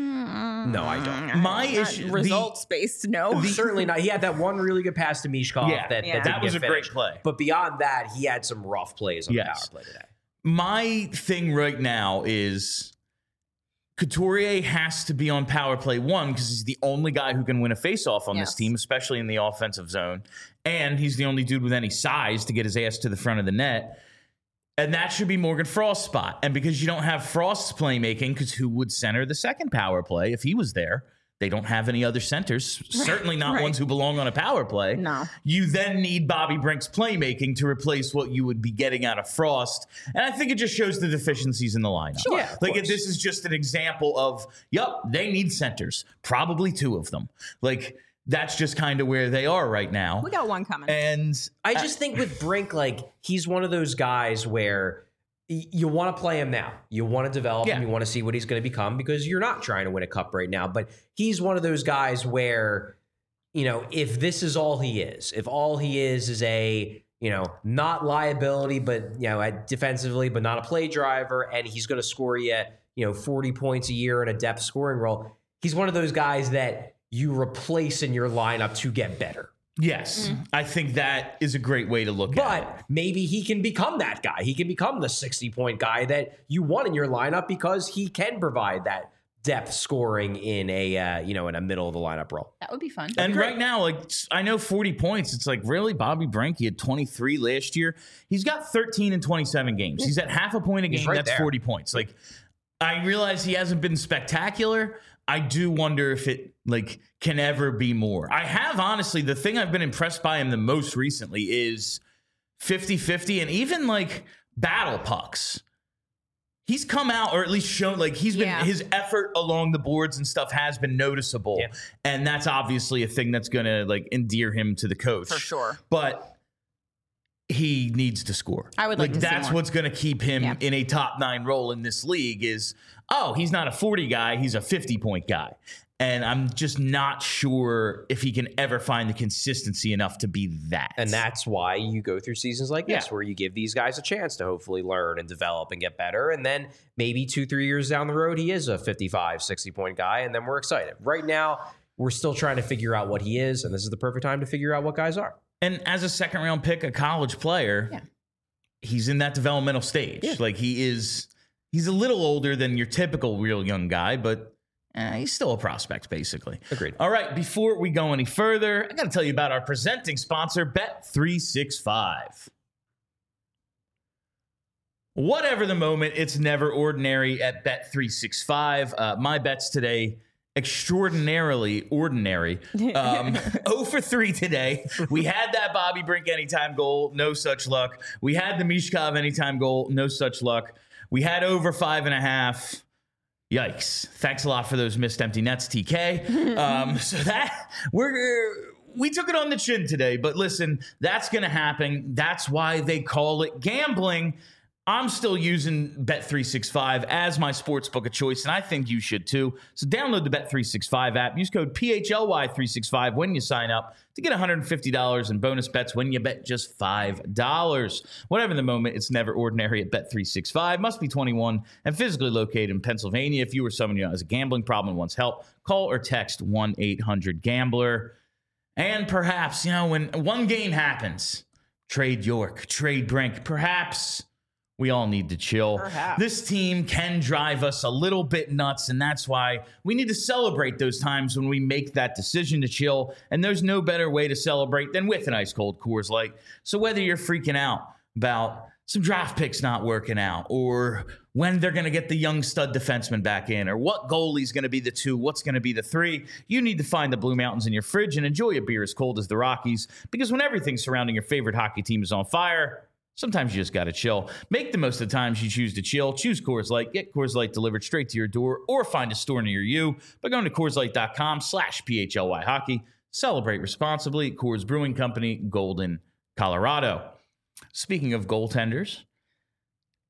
No, I don't. My issue, Results based, no. Certainly not. He had that one really good pass to Mishkov. Yeah, that didn't was get a great finished. play. But beyond that, he had some rough plays on the Yes. power play today. My thing right now is Couturier has to be on power play 1 because he's the only guy who can win a faceoff on this Yes. team, especially in the offensive zone. And he's the only dude with any size to get his ass to the front of the net. And that should be Morgan Frost's spot. And because you don't have Frost's playmaking, because who would center the second power play if he was there? They don't have any other centers, certainly not right. ones who belong on a power play. No. You then need Bobby Brink's playmaking to replace what you would be getting out of Frost. And I think it just shows the deficiencies in the lineup. Sure. Yeah, of Like, course. this is just an example of, they need centers, probably 2 of them. Like, that's just kind of where they are right now. We got one coming. And I just think with Brink, like, he's one of those guys where you want to play him now. You want to develop him. You want to see what he's going to become because you're not trying to win a cup right now. But he's one of those guys where, you know, if this is all he is, if all he is a, you know, not liability, but, you know, defensively, but not a play driver, and he's going to score you 40 points a year in a depth scoring role, he's one of those guys that you replace in your lineup to get better. yes, I think that is a great way to look at it. But maybe he can become that guy. He can become the 60-point guy that you want in your lineup because he can provide that depth scoring in a in a middle of the lineup role. That would be fun. And right now, like, I know 40 points. It's like, really? Bobby Brink, he had 23 last year. He's got 13 in 27 games. He's at half a point a game. right That's there. 40 points. Like, I realize he hasn't been spectacular. I do wonder if it, like, can ever be more. I have, honestly, the thing I've been impressed by him the most recently is 50-50 and even, like, battle pucks. He's come out, or at least shown, like, he's been, his effort along the boards and stuff has been noticeable. Yeah. And that's obviously a thing that's going to, like, endear him to the coach. For sure. But he needs to score. I would like to see that's more. what's going to keep him in a top 9 role in this league is, he's not a 40 guy, he's a 50-point guy. And I'm just not sure if he can ever find the consistency enough to be that. And that's why you go through seasons like this, where you give these guys a chance to hopefully learn and develop and get better. And then maybe 2-3 years down the road, he is a 55, 60-point guy, and then we're excited. Right now, we're still trying to figure out what he is, and this is the perfect time to figure out what guys are. And as a second-round pick, a college player, he's in that developmental stage. Yeah. Like, he's a little older than your typical real young guy, but he's still a prospect, basically. Agreed. All right, before we go any further, I got to tell you about our presenting sponsor, Bet365. Whatever the moment, it's never ordinary at Bet365. My bets today, extraordinarily ordinary. 0 for 3 today. We had that Bobby Brink anytime goal, no such luck. We had the Mishkov anytime goal, no such luck. We had over 5.5. Yikes. Thanks a lot for those missed empty nets, TK. So that we took it on the chin today, but listen, that's going to happen. That's why they call it gambling. I'm still using Bet365 as my sportsbook of choice, and I think you should too. So download the Bet365 app. Use code PHLY365 when you sign up to get $150 in bonus bets when you bet just $5. Whatever the moment, it's never ordinary at Bet365. Must be 21 and physically located in Pennsylvania. If you or someone you know has a gambling problem and wants help, call or text 1-800-GAMBLER. And perhaps, when one game happens, trade York, trade Brink, perhaps we all need to chill. Perhaps. This team can drive us a little bit nuts, and that's why we need to celebrate those times when we make that decision to chill. And there's no better way to celebrate than with an ice cold Coors Light. So whether you're freaking out about some draft picks not working out, or when they're going to get the young stud defenseman back in, or what goalie's going to be the 2, what's going to be the 3, you need to find the Blue Mountains in your fridge and enjoy a beer as cold as the Rockies. Because when everything surrounding your favorite hockey team is on fire, sometimes you just got to chill. Make the most of the times you choose to chill. Choose Coors Light. Get Coors Light delivered straight to your door, or find a store near you by going to CoorsLight.com/PHLY hockey. Celebrate responsibly. Coors Brewing Company, Golden, Colorado. Speaking of goaltenders,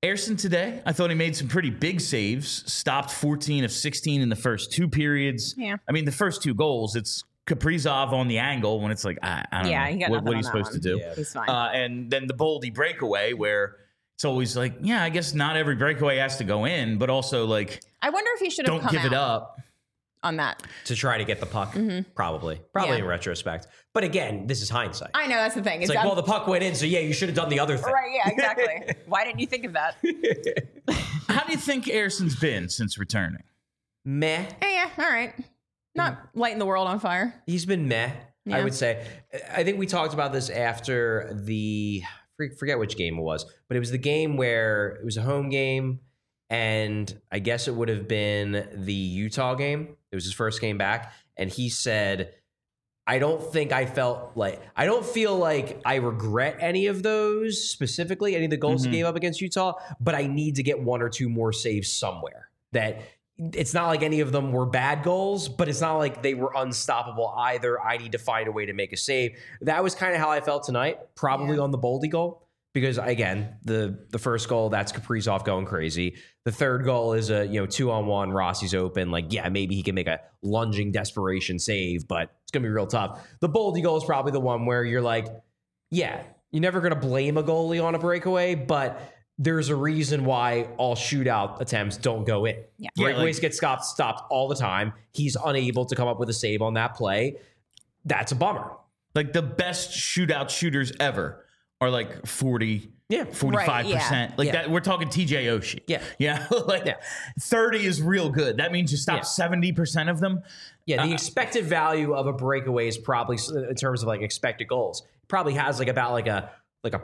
Ayrson today, I thought he made some pretty big saves, stopped 14 of 16 in the first 2 periods. Yeah. I mean, the first 2 goals, it's Kaprizov on the angle when it's like, I don't Yeah, he know. got What nothing are you on supposed that to one. do? Yeah. He's fine. And then the Boldy breakaway where it's always like, yeah, I guess not every breakaway has to go in, but also like, I wonder if he should have don't come give it out up. on that. To try to get the puck, probably Yeah. in retrospect. But again, this is hindsight. I know, that's the thing. It's like, well, the puck went in, so yeah, you should have done the other thing. Right, yeah, exactly. Why didn't you think of that? How do you think Ayrson's been since returning? Meh. Yeah, all right. Not lighting the world on fire. He's been meh, Yeah. I would say. I think we talked about this after forget which game it was, but it was the game where it was a home game, and I guess it would have been the Utah game. It was his first game back, and he said, I don't feel like I regret any of those specifically, any of the goals he gave up against Utah, but I need to get 1 or 2 more saves somewhere. That it's not like any of them were bad goals, but it's not like they were unstoppable either. I need to find a way to make a save. That was kind of how I felt tonight, probably on the Boldy goal. Because again, the first goal, that's Kaprizov going crazy. The third goal is a 2-on-1, Rossi's open. Like, yeah, maybe he can make a lunging desperation save, but it's gonna be real tough. The Boldy goal is probably the one where you're like, yeah, you're never gonna blame a goalie on a breakaway, but there's a reason why all shootout attempts don't go in. Yeah. Breakaways get stopped all the time. He's unable to come up with a save on that play. That's a bummer. Like the best shootout shooters ever are like 40, 45%. Right, yeah. Like Yeah. that, we're talking TJ Oshie. Yeah. Like 30 is real good. That means you stop 70% of them. Yeah, the expected value of a breakaway is probably, in terms of like expected goals, probably has like about like a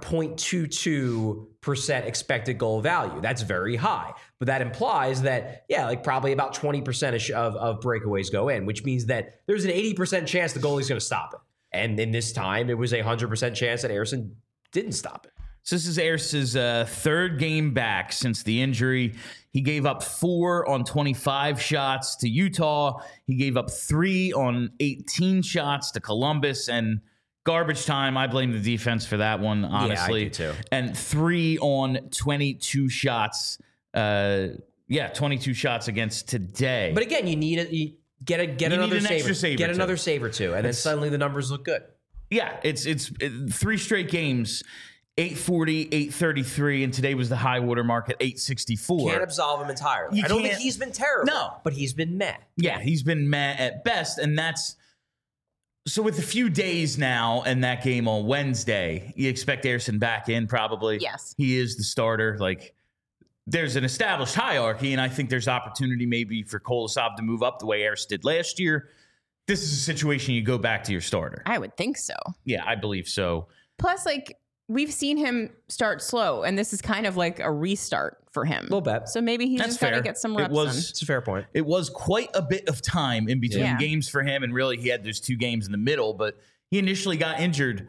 0.22% expected goal value. That's very high. But that implies that, like probably about 20% of breakaways go in, which means that there's an 80% chance the goalie's going to stop it. And in this time, it was a 100% chance that Ayrson didn't stop it. So this is Ayrson's third game back since the injury. He gave up 4 on 25 shots to Utah. He gave up 3 on 18 shots to Columbus. And garbage time, I blame the defense for that one, honestly. Yeah, I do too. And 3 on 22 shots. 22 shots against today. But again, you need get another an save. extra save or Get two. another save or two, and then suddenly the numbers look good. Yeah, it's 3 straight games, 840, 833, and today was the high water mark at 864. Can't absolve him entirely. You I don't think can't- he's been terrible. No. But he's been meh. Yeah, he's been meh at best, and that's so with a few days now and that game on Wednesday, you expect Ayrson back in probably. Yes. He is the starter. Like there's an established hierarchy, and I think there's opportunity maybe for Kolosov to move up the way Ayrson did last year. This is a situation you go back to your starter. I would think so. Yeah, I believe so. Plus, like, we've seen him start slow, and this is kind of like a restart for him. A little bit. So maybe he's That's just got to fair. get some It reps was- It's a fair point. It was quite a bit of time in between Yeah. games for him, and really he had those 2 games in the middle, but he initially got injured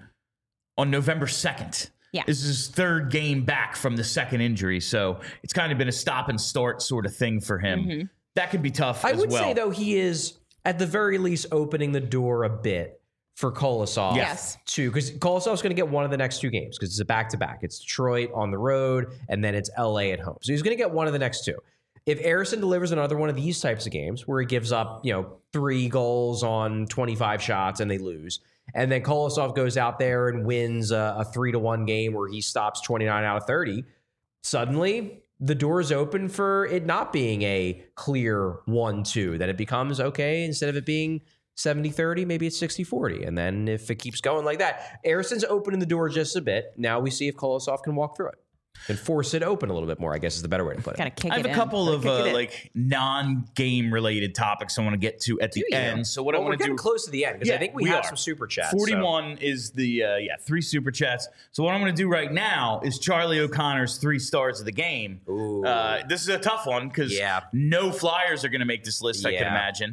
on November 2nd. Yeah. This is his 3rd game back from the second injury, so it's kind of been a stop and start sort of thing for him. That could be tough I as would well. say, though, he is, at the very least, opening the door a bit for Kolosov. Yes. Too, because Kolosov's going to get one of the next 2 games because it's a back-to-back. It's Detroit on the road, and then it's LA at home. So he's going to get one of the next 2. If Ayrson delivers another one of these types of games where he gives up, 3 goals on 25 shots and they lose, and then Kolosov goes out there and wins a 3-1 game where he stops 29 out of 30, suddenly the door is open for it not being a clear 1-2. Then it becomes, okay, instead of it being 70-30, maybe it's 60-40. And then if it keeps going like that, Ayrson's opening the door just a bit. Now we see if Kolosov can walk through it and force it open a little bit more, I guess is the better way to put it. Got to kick I have it a in. couple of Kick it in. like non-game related topics I want to get to at the you? end. So what I Well, we're want to getting do close to the end because I Yeah, think we we have are. some super chats. 41 is the 3 super chats. So what I'm going to do right now is Charlie O'Connor's 3 stars of the game. Ooh. This is a tough one because Yeah. no Flyers are going to make this list. I can Yeah. imagine.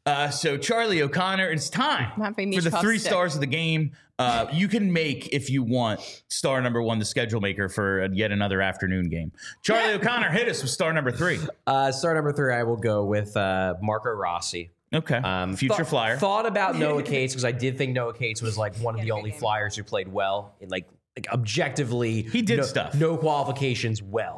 So Charlie O'Connor, it's time Not being for the Michkov 3 stick. stars of the game. You can make, if you want, star number 1 the schedule maker for yet another afternoon game. Charlie O'Connor, hit us with star number 3. Star number 3, I will go with Marco Rossi. Okay, future Flyer. Thought about Noah Cates because I did think Noah Cates was like one of the only Flyers who played well in like objectively. He did stuff. No qualifications well.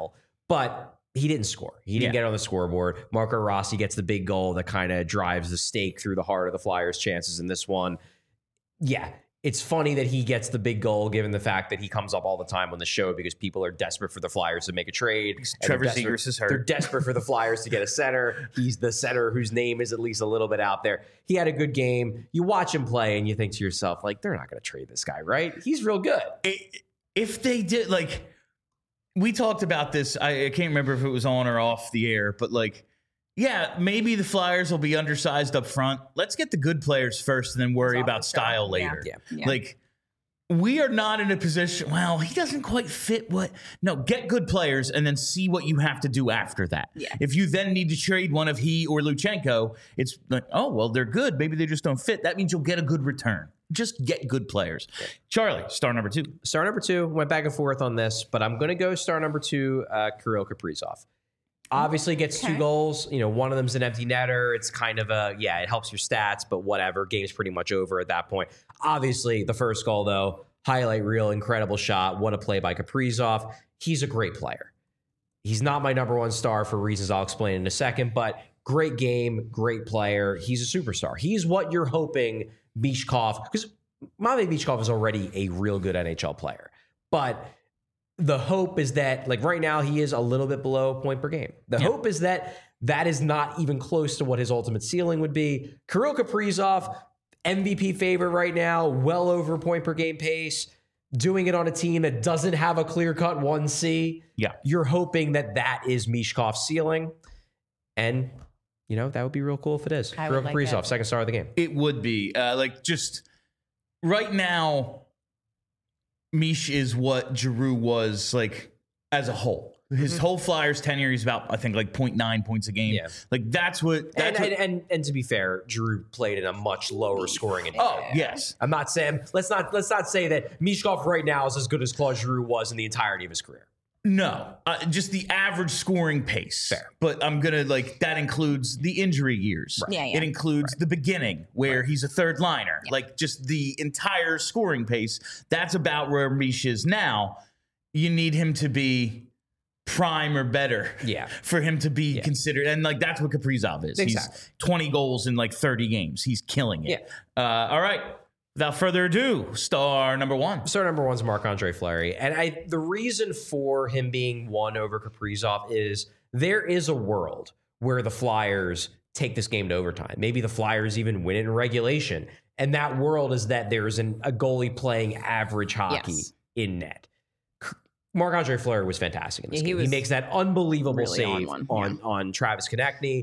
but he didn't score. He didn't get on the scoreboard. Marco Rossi gets the big goal that kind of drives the stake through the heart of the Flyers' chances in this one. Yeah, it's funny that he gets the big goal given the fact that he comes up all the time on the show because people are desperate for the Flyers to make a trade. Trevor Zegras is hurt. They're desperate for the Flyers to get a center. He's the center whose name is at least a little bit out there. He had a good game. You watch him play and you think to yourself, like, they're not going to trade this guy, right? He's real good. If they did, like, we talked about this. I can't remember if it was on or off the air, but like, yeah, maybe the Flyers will be undersized up front. Let's get the good players first and then worry about style later. Yeah. Like, we are not in a position, well, he doesn't quite fit get good players and then see what you have to do after that. Yeah. If you then need to trade one of he or Luchenko, it's like, oh, well, they're good. Maybe they just don't fit. That means you'll get a good return. Just get good players. Charlie, star number 2. Star number 2, went back and forth on this, but I'm going to go star number 2, Kirill Kaprizov. Obviously gets 2 goals. You know, one of them's an empty netter. It's kind of it helps your stats, but whatever. Game's pretty much over at that point. Obviously, the first goal, though, highlight reel, incredible shot. What a play by Kaprizov. He's a great player. He's not my number 1 star for reasons I'll explain in a second, but great game, great player. He's a superstar. He's what you're hoping Michkov, because Matvei Michkov is already a real good NHL player. But the hope is that, like right now, he is a little bit below point per game. The hope is that is not even close to what his ultimate ceiling would be. Kirill Kaprizov, MVP favorite right now, well over point per game pace, doing it on a team that doesn't have a clear-cut 1C. Yeah. You're hoping that is Michkov's ceiling. And, you know, that would be real cool if it is. Kirill Kaprizov, second star of the game. It would be. Just right now, Mish is what Giroux was, like, as a whole. His whole Flyers tenure, he's about, I think, like 0.9 points a game. Yeah. Like, that's what... And to be fair, Giroux played in a much lower scoring inning. Oh, yes. I'm not saying... Let's not say that Michkov right now is as good as Claude Giroux was in the entirety of his career. No, just the average scoring pace. Fair. But I'm going to, that includes the injury years. Right. Yeah. It includes the beginning where he's a third liner. Yeah. Like, just the entire scoring pace. That's about where Mish is now. You need him to be prime or better for him to be considered. And, that's what Kaprizov is. Exactly. He's 20 goals in, 30 games. He's killing it. Yeah. All right. Without further ado, star number 1. Star number 1 is Marc-Andre Fleury. And the reason for him being 1 over Kaprizov is there is a world where the Flyers take this game to overtime. Maybe the Flyers even win it in regulation. And that world is that there's a goalie playing average hockey in net. Marc-Andre Fleury was fantastic in this game. He makes that unbelievable really save on Travis Konechny.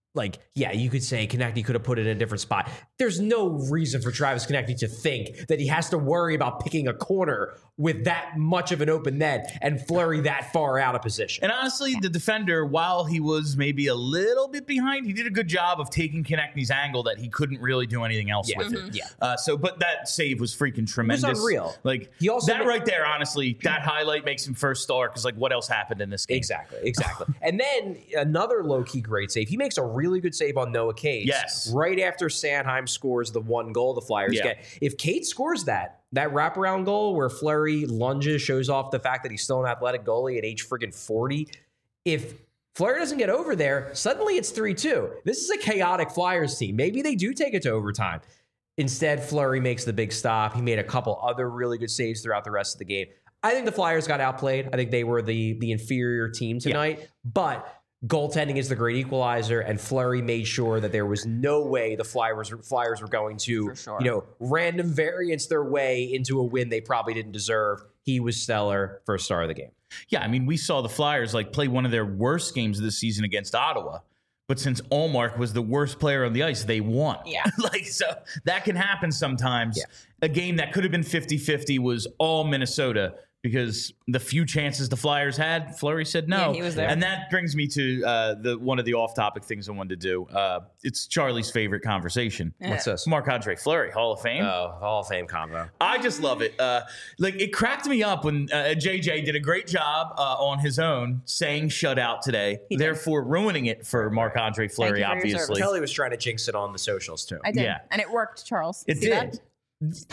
You could say Konechny could have put it in a different spot. There's no reason for Travis Konechny to think that he has to worry about picking a corner with that much of an open net and Fleury that far out of position. And honestly, the defender, while he was maybe a little bit behind, he did a good job of taking Konechny's angle that he couldn't really do anything else with it. Yeah. But that save was freaking tremendous. It was unreal. He also right there, honestly, that highlight makes him first star because what else happened in this game? Exactly. And then another low-key great save. He makes a really good save on Noah Cates. Yes. Right after Sanheim scores the 1 goal the Flyers get. If Cates scores that wraparound goal where Fleury lunges, shows off the fact that he's still an athletic goalie at age friggin' 40. If Fleury doesn't get over there, suddenly it's 3-2. This is a chaotic Flyers team. Maybe they do take it to overtime. Instead, Fleury makes the big stop. He made a couple other really good saves throughout the rest of the game. I think the Flyers got outplayed. I think they were the inferior team tonight. But goaltending is the great equalizer, and Fleury made sure that there was no way the Flyers were going to, random variance their way into a win they probably didn't deserve. He was stellar, first star of the game. Yeah, I mean, we saw the Flyers play one of their worst games of the season against Ottawa. But since Ullmark was the worst player on the ice, they won. Yeah. So that can happen sometimes. Yeah. A game that could have been 50-50 was all Minnesota. Because the few chances the Flyers had, Fleury said no. Yeah, he was there. And that brings me to one of the off-topic things I wanted to do. It's Charlie's favorite conversation. What's this? Marc-Andre Fleury, Hall of Fame. Oh, Hall of Fame combo. I just love it. It cracked me up when JJ did a great job on his own saying shutout today, therefore ruining it for Marc-Andre Fleury, obviously. Kelly was trying to jinx it on the socials, too. I did. Yeah. And it worked, Charles. It did.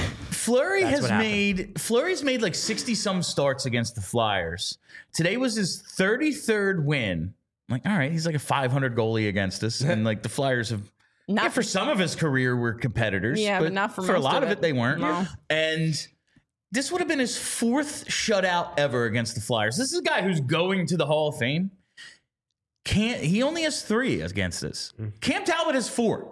Fleury's made like 60 some starts against the Flyers. Today was his 33rd win. Like, all right, he's like a 500 goalie against us, and like the Flyers have. Not for some of his career were competitors. Yeah, but not for a most lot of of it. They weren't. No. And this would have been his 4th shutout ever against the Flyers. This is a guy who's going to the Hall of Fame. He only has 3 against us. Cam Talbot has 4.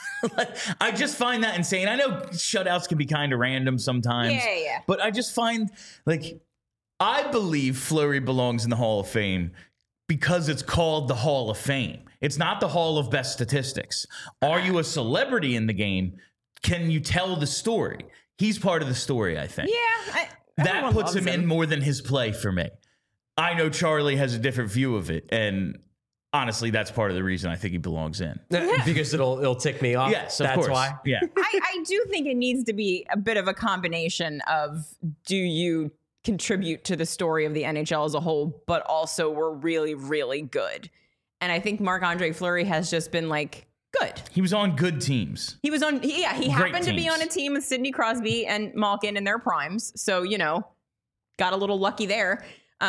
I just find that insane. I know shutouts can be kind of random sometimes. Yeah. But I just find, like, I believe Fleury belongs in the Hall of Fame because it's called the Hall of Fame. It's not the Hall of Best Statistics. Are you a celebrity in the game? Can you tell the story? He's part of the story, I think. Yeah. That puts him in more than his play for me. I know Charlie has a different view of it, and honestly, that's part of the reason I think he belongs in. Because it'll tick me off. Yes, of That's course. why. Yeah. I do think it needs to be a bit of a combination of, do you contribute to the story of the NHL as a whole, but also we're really, really good. And I think Marc-Andre Fleury has just been like, good. He was on good teams. He was on, he happened to be teams. on a team with Sidney Crosby and Malkin in their primes. So, got a little lucky there.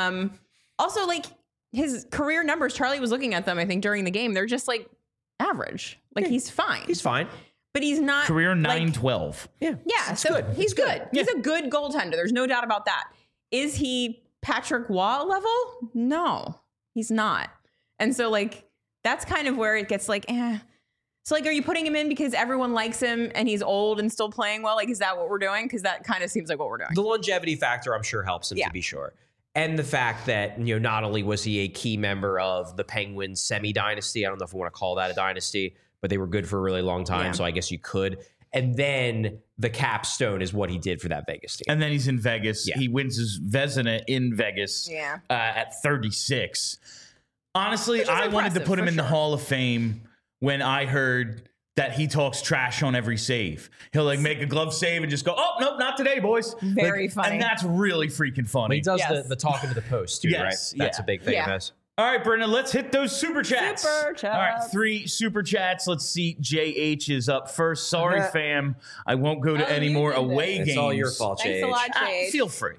Also, like, his career numbers, Charlie was looking at them, I think, during the game. They're just like average. Like, he's fine. He's fine. But he's not. Career like, 9-12. Yeah, so good. he's It's good. He's a good goaltender. There's no doubt about that. Is he Patrick Waugh level? No, he's not. And so, like, that's kind of where it gets like, So, like, are you putting him in because everyone likes him and he's old and still playing well? Like, is that what we're doing? Because that kind of seems like what we're doing. The longevity factor, I'm sure, helps him, to be sure. And the fact that, not only was he a key member of the Penguins semi-dynasty, I don't know if we want to call that a dynasty, but they were good for a really long time, so I guess you could. And then the capstone is what he did for that Vegas team. And then he's in Vegas. Yeah. He wins his Vezina in Vegas at 36. Honestly, I wanted to put him in the Hall of Fame when I heard that he talks trash on every save. He'll like make a glove save and just go, oh, nope, not today, boys. Very funny. And that's really freaking funny. He does the talking to the post, too, right? That's a big thing of his. All right, Brenda, let's hit those super chats. Super chats. All right, 3 super chats. Let's see. JH is up first. Sorry, fam. I won't go to any more away games. It's all your fault, Thanks JH. a lot, JH. Feel free.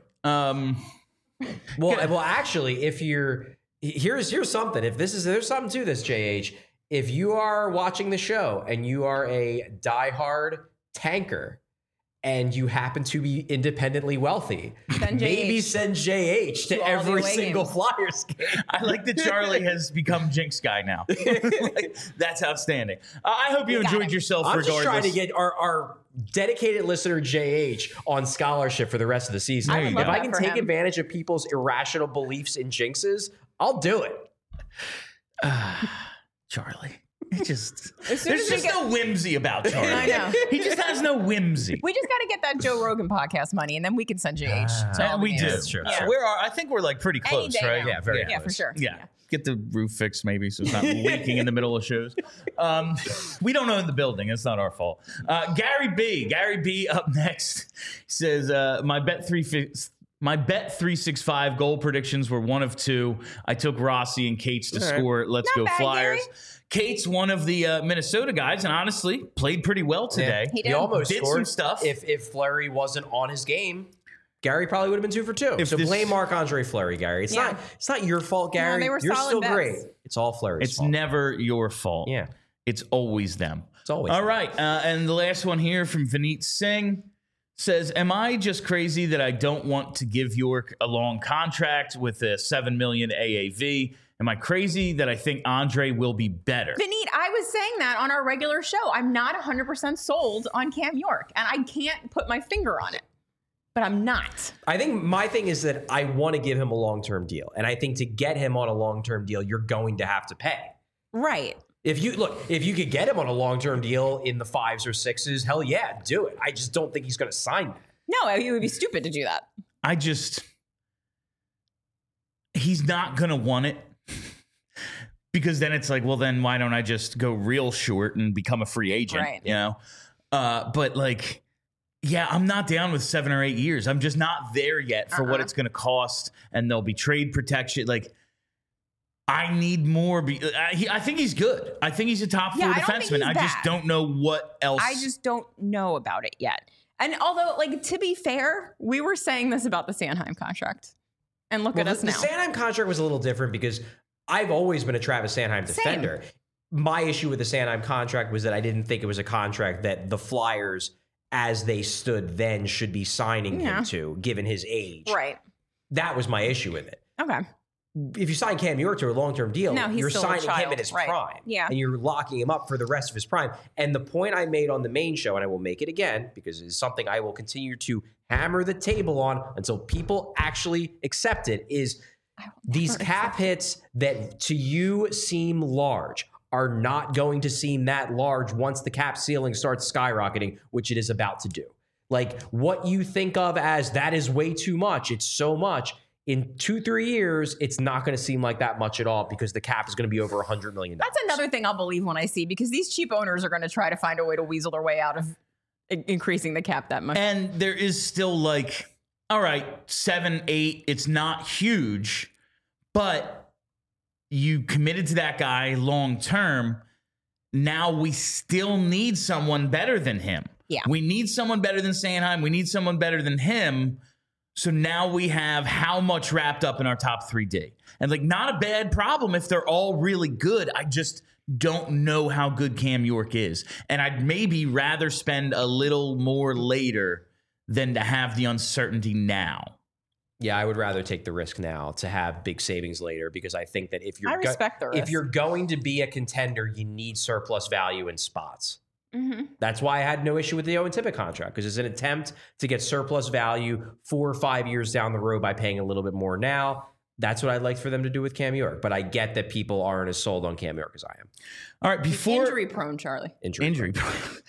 Well, actually, if you're here's something. If there's something to this, JH. If you are watching the show and you are a diehard tanker and you happen to be independently wealthy, maybe send JH to every single Flyers game. I like that Charlie has become Jinx guy now. Like, that's outstanding. I hope you enjoyed yourself I'm regardless. just trying to get our dedicated listener JH on scholarship for the rest of the season. I would If love I that can for take him. advantage of people's irrational beliefs in jinxes, I'll do it. Charlie. There's soon as we just get- no whimsy about Charlie. I know. He just has no whimsy. We just got to get that Joe Rogan podcast money, and then we can send JH. to all the We games. do. That's true. Yeah. I think we're like pretty Any close, day right? now. Yeah, very Yeah, for close. sure. Yeah. Get the roof fixed maybe so it's not leaking in the middle of shows. We don't own the building. It's not our fault. Gary B up next says, my Bet365 goal predictions were 1 of 2. I took Rossi and Cates to score. Let's Not go bad, Flyers. Gary. Cates, one of the Minnesota guys, and honestly played pretty well today. He He did. almost Did scored. some stuff. If Fleury wasn't on his game, Gary probably would have been 2 for 2. If So this- blame Marc-Andre Fleury, Gary. It's not your fault, Gary. they were You're solid still bets. great. It's all Fleury's It's fault. never your fault. Yeah. It's always them. It's always All them. right. And the last one here from Vineet Singh says, am I just crazy that I don't want to give York a long contract with a $7 million AAV? Am I crazy that I think Andre will be better? Vineet, I was saying that on our regular show. I'm not 100% sold on Cam York, and I can't put my finger on it. But I'm not. I think my thing is that I want to give him a long-term deal. And I think to get him on a long-term deal, you're going to have to pay. Right. If you could get him on a long-term deal in the 5s or 6s, hell yeah, do it. I just don't think he's going to sign that. No, it would be stupid to do that. He's not going to want it. Because then it's like, well, then why don't I just go real short and become a free agent? Right. You know? But like, yeah, I'm not down with 7 or 8 years. I'm just not there yet for what it's going to cost. And there'll be trade protection. Like, I need more. I think he's good. I think he's a top 4 I don't think defenseman. he's I just bad. don't know what else. I just don't know about it yet. And although, like, to be fair, we were saying this about the Sanheim contract. And look at us now. The Sanheim contract was a little different because I've always been a Travis Sanheim defender. My issue with the Sanheim contract was that I didn't think it was a contract that the Flyers, as they stood then, should be signing him to, given his age. Right. That was my issue with it. Okay. If you sign Cam York to a long-term deal, you're signing him in his prime. Yeah. And you're locking him up for the rest of his prime. And the point I made on the main show, and I will make it again, because it's something I will continue to hammer the table on until people actually accept it, is these cap hits that to you seem large are not going to seem that large once the cap ceiling starts skyrocketing, which it is about to do. Like, what you think of as that is way too much, it's so much. In 2-3 years, it's not going to seem like that much at all because the cap is going to be over $100 million. That's another thing I'll believe when I see, because these cheap owners are going to try to find a way to weasel their way out of increasing the cap that much. And there is still like, all right, 7, 8, it's not huge, but you committed to that guy long term. Now we still need someone better than him. Yeah. We need someone better than Sanheim. We need someone better than him. So now we have how much wrapped up in our top 3D. And like, not a bad problem if they're all really good. I just don't know how good Cam York is. And I'd maybe rather spend a little more later than to have the uncertainty now. Yeah, I would rather take the risk now to have big savings later, because I think that if you're the risk. If you're going to be a contender, you need surplus value in spots. Mm-hmm. That's why I had no issue with the Owen Tippett contract, because it's an attempt to get surplus value 4 or 5 years down the road by paying a little bit more now. That's what I'd like for them to do with Cam York. But I get that people aren't as sold on Cam York as I am. All right, injury prone, Charlie. Injury prone.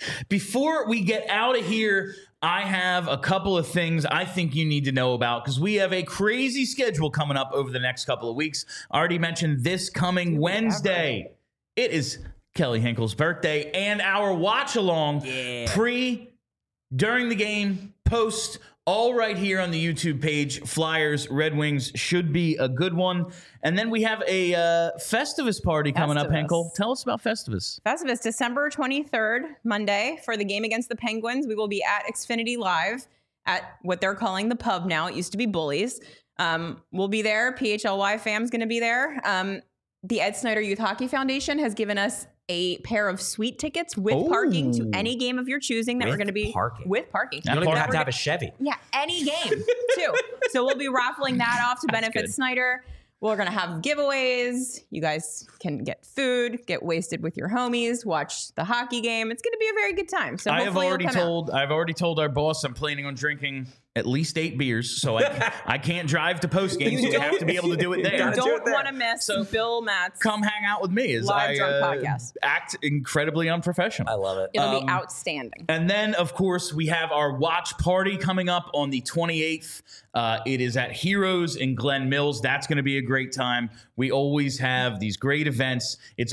Before we get out of here, I have a couple of things I think you need to know about, because we have a crazy schedule coming up over the next couple of weeks. I already mentioned this coming Wednesday. It is Kelly Hinkle's birthday, and our watch along pre, during the game, post, all right here on the YouTube page. Flyers, Red Wings should be a good one. And then we have a Festivus party coming up, Hinkle. Tell us about Festivus. Festivus, December 23rd, Monday, for the game against the Penguins. We will be at Xfinity Live at what they're calling the pub now. It used to be Bullies. We'll be there. PHLY fam's going to be there. The Ed Snyder Youth Hockey Foundation has given us a pair of suite tickets with parking to any game of your choosing that we're going to be with parking. You don't even have to have a Chevy. Yeah, any game too. So we'll be raffling that off to benefit Snyder. We're going to have giveaways. You guys can get food, get wasted with your homies, watch the hockey game. It's going to be a very good time. So I've already told our boss I'm planning on drinking at least 8 beers, so I can't drive to post game, so we have to be able to do it there. You don't want to miss Bill Matt's come hang out with me as live drunk podcast. Act incredibly unprofessional. I love it. It'll be outstanding. And then, of course, we have our watch party coming up on the 28th. It is at Heroes in Glen Mills. That's going to be a great time. We always have these great events. It's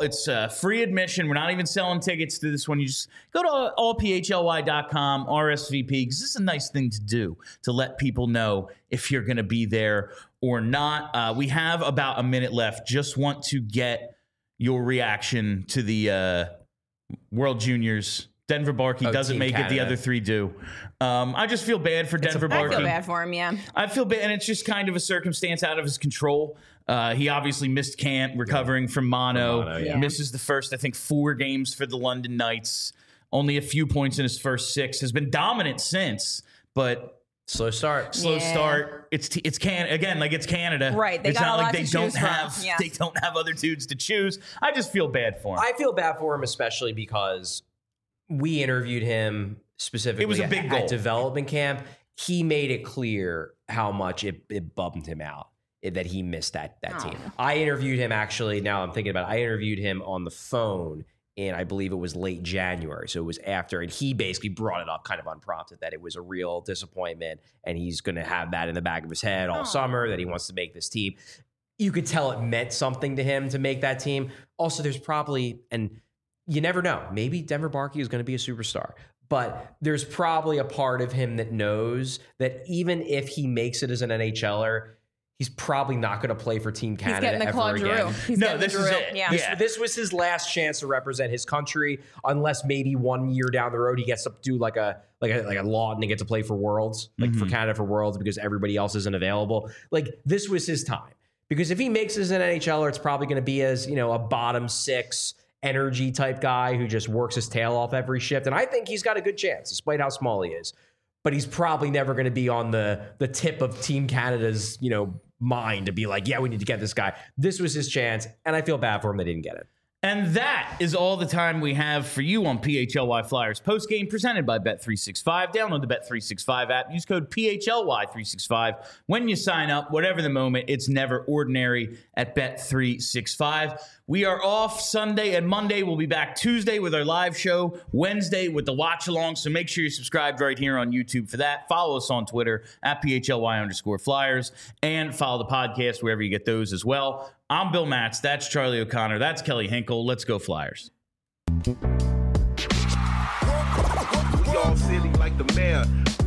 free admission. We're not even selling tickets to this one. You just go to allphly.com, RSVP, because this is a nice thing to do, to let people know if you're going to be there or not. We have about a minute left. Just want to get your reaction to the World Juniors. Denver Barkey doesn't make it. The other 3 do. I just feel bad for Denver Barkey. I feel bad for him, yeah. I feel bad, and it's just kind of a circumstance out of his control. He obviously missed camp, recovering from mono. Misses the first, I think, 4 games for the London Knights. Only a few points in his first 6. Has been dominant since, but slow start. It's Canada. Right. It's not like they don't have other dudes to choose. I just feel bad for him. I feel bad for him, especially because we interviewed him specifically. It was a big goal at development camp. He made it clear how much it bummed him out that he missed that team. I interviewed him, actually, now I'm thinking about it, I interviewed him on the phone, and I believe it was late January, so it was after, and he basically brought it up kind of unprompted, that it was a real disappointment, and he's going to have that in the back of his head all summer, that he wants to make this team. You could tell it meant something to him to make that team. Also, there's probably, and you never know, maybe Denver Barkey is going to be a superstar. But there's probably a part of him that knows that even if he makes it as an NHLer, he's probably not going to play for Team Canada getting the ever Claude again. Giroux. He's No, getting the this is Giroux. it. Yeah. Yeah. This was his last chance to represent his country, unless maybe 1 year down the road he gets to do like a Lawton and get to play for Worlds, for Canada for Worlds, because everybody else isn't available. Like, this was his time. Because if he makes it as an NHLer, it's probably going to be as, a bottom 6 energy type guy who just works his tail off every shift. And I think he's got a good chance, despite how small he is. But he's probably never going to be on the tip of Team Canada's, mind to be like, yeah, we need to get this guy. This was his chance, and I feel bad for him they didn't get it. And that is all the time we have for you on PHLY Flyers postgame presented by Bet365. Download the Bet365 app. Use code PHLY365 when you sign up. Whatever the moment, it's never ordinary at Bet365. We are off Sunday and Monday. We'll be back Tuesday with our live show, Wednesday with the watch along. So make sure you're subscribed right here on YouTube for that. Follow us on Twitter at PHLY_Flyers and follow the podcast wherever you get those as well. I'm Bill Matz. That's Charlie O'Connor. That's Kelly Hinkle. Let's go Flyers. We all silly like the mayor.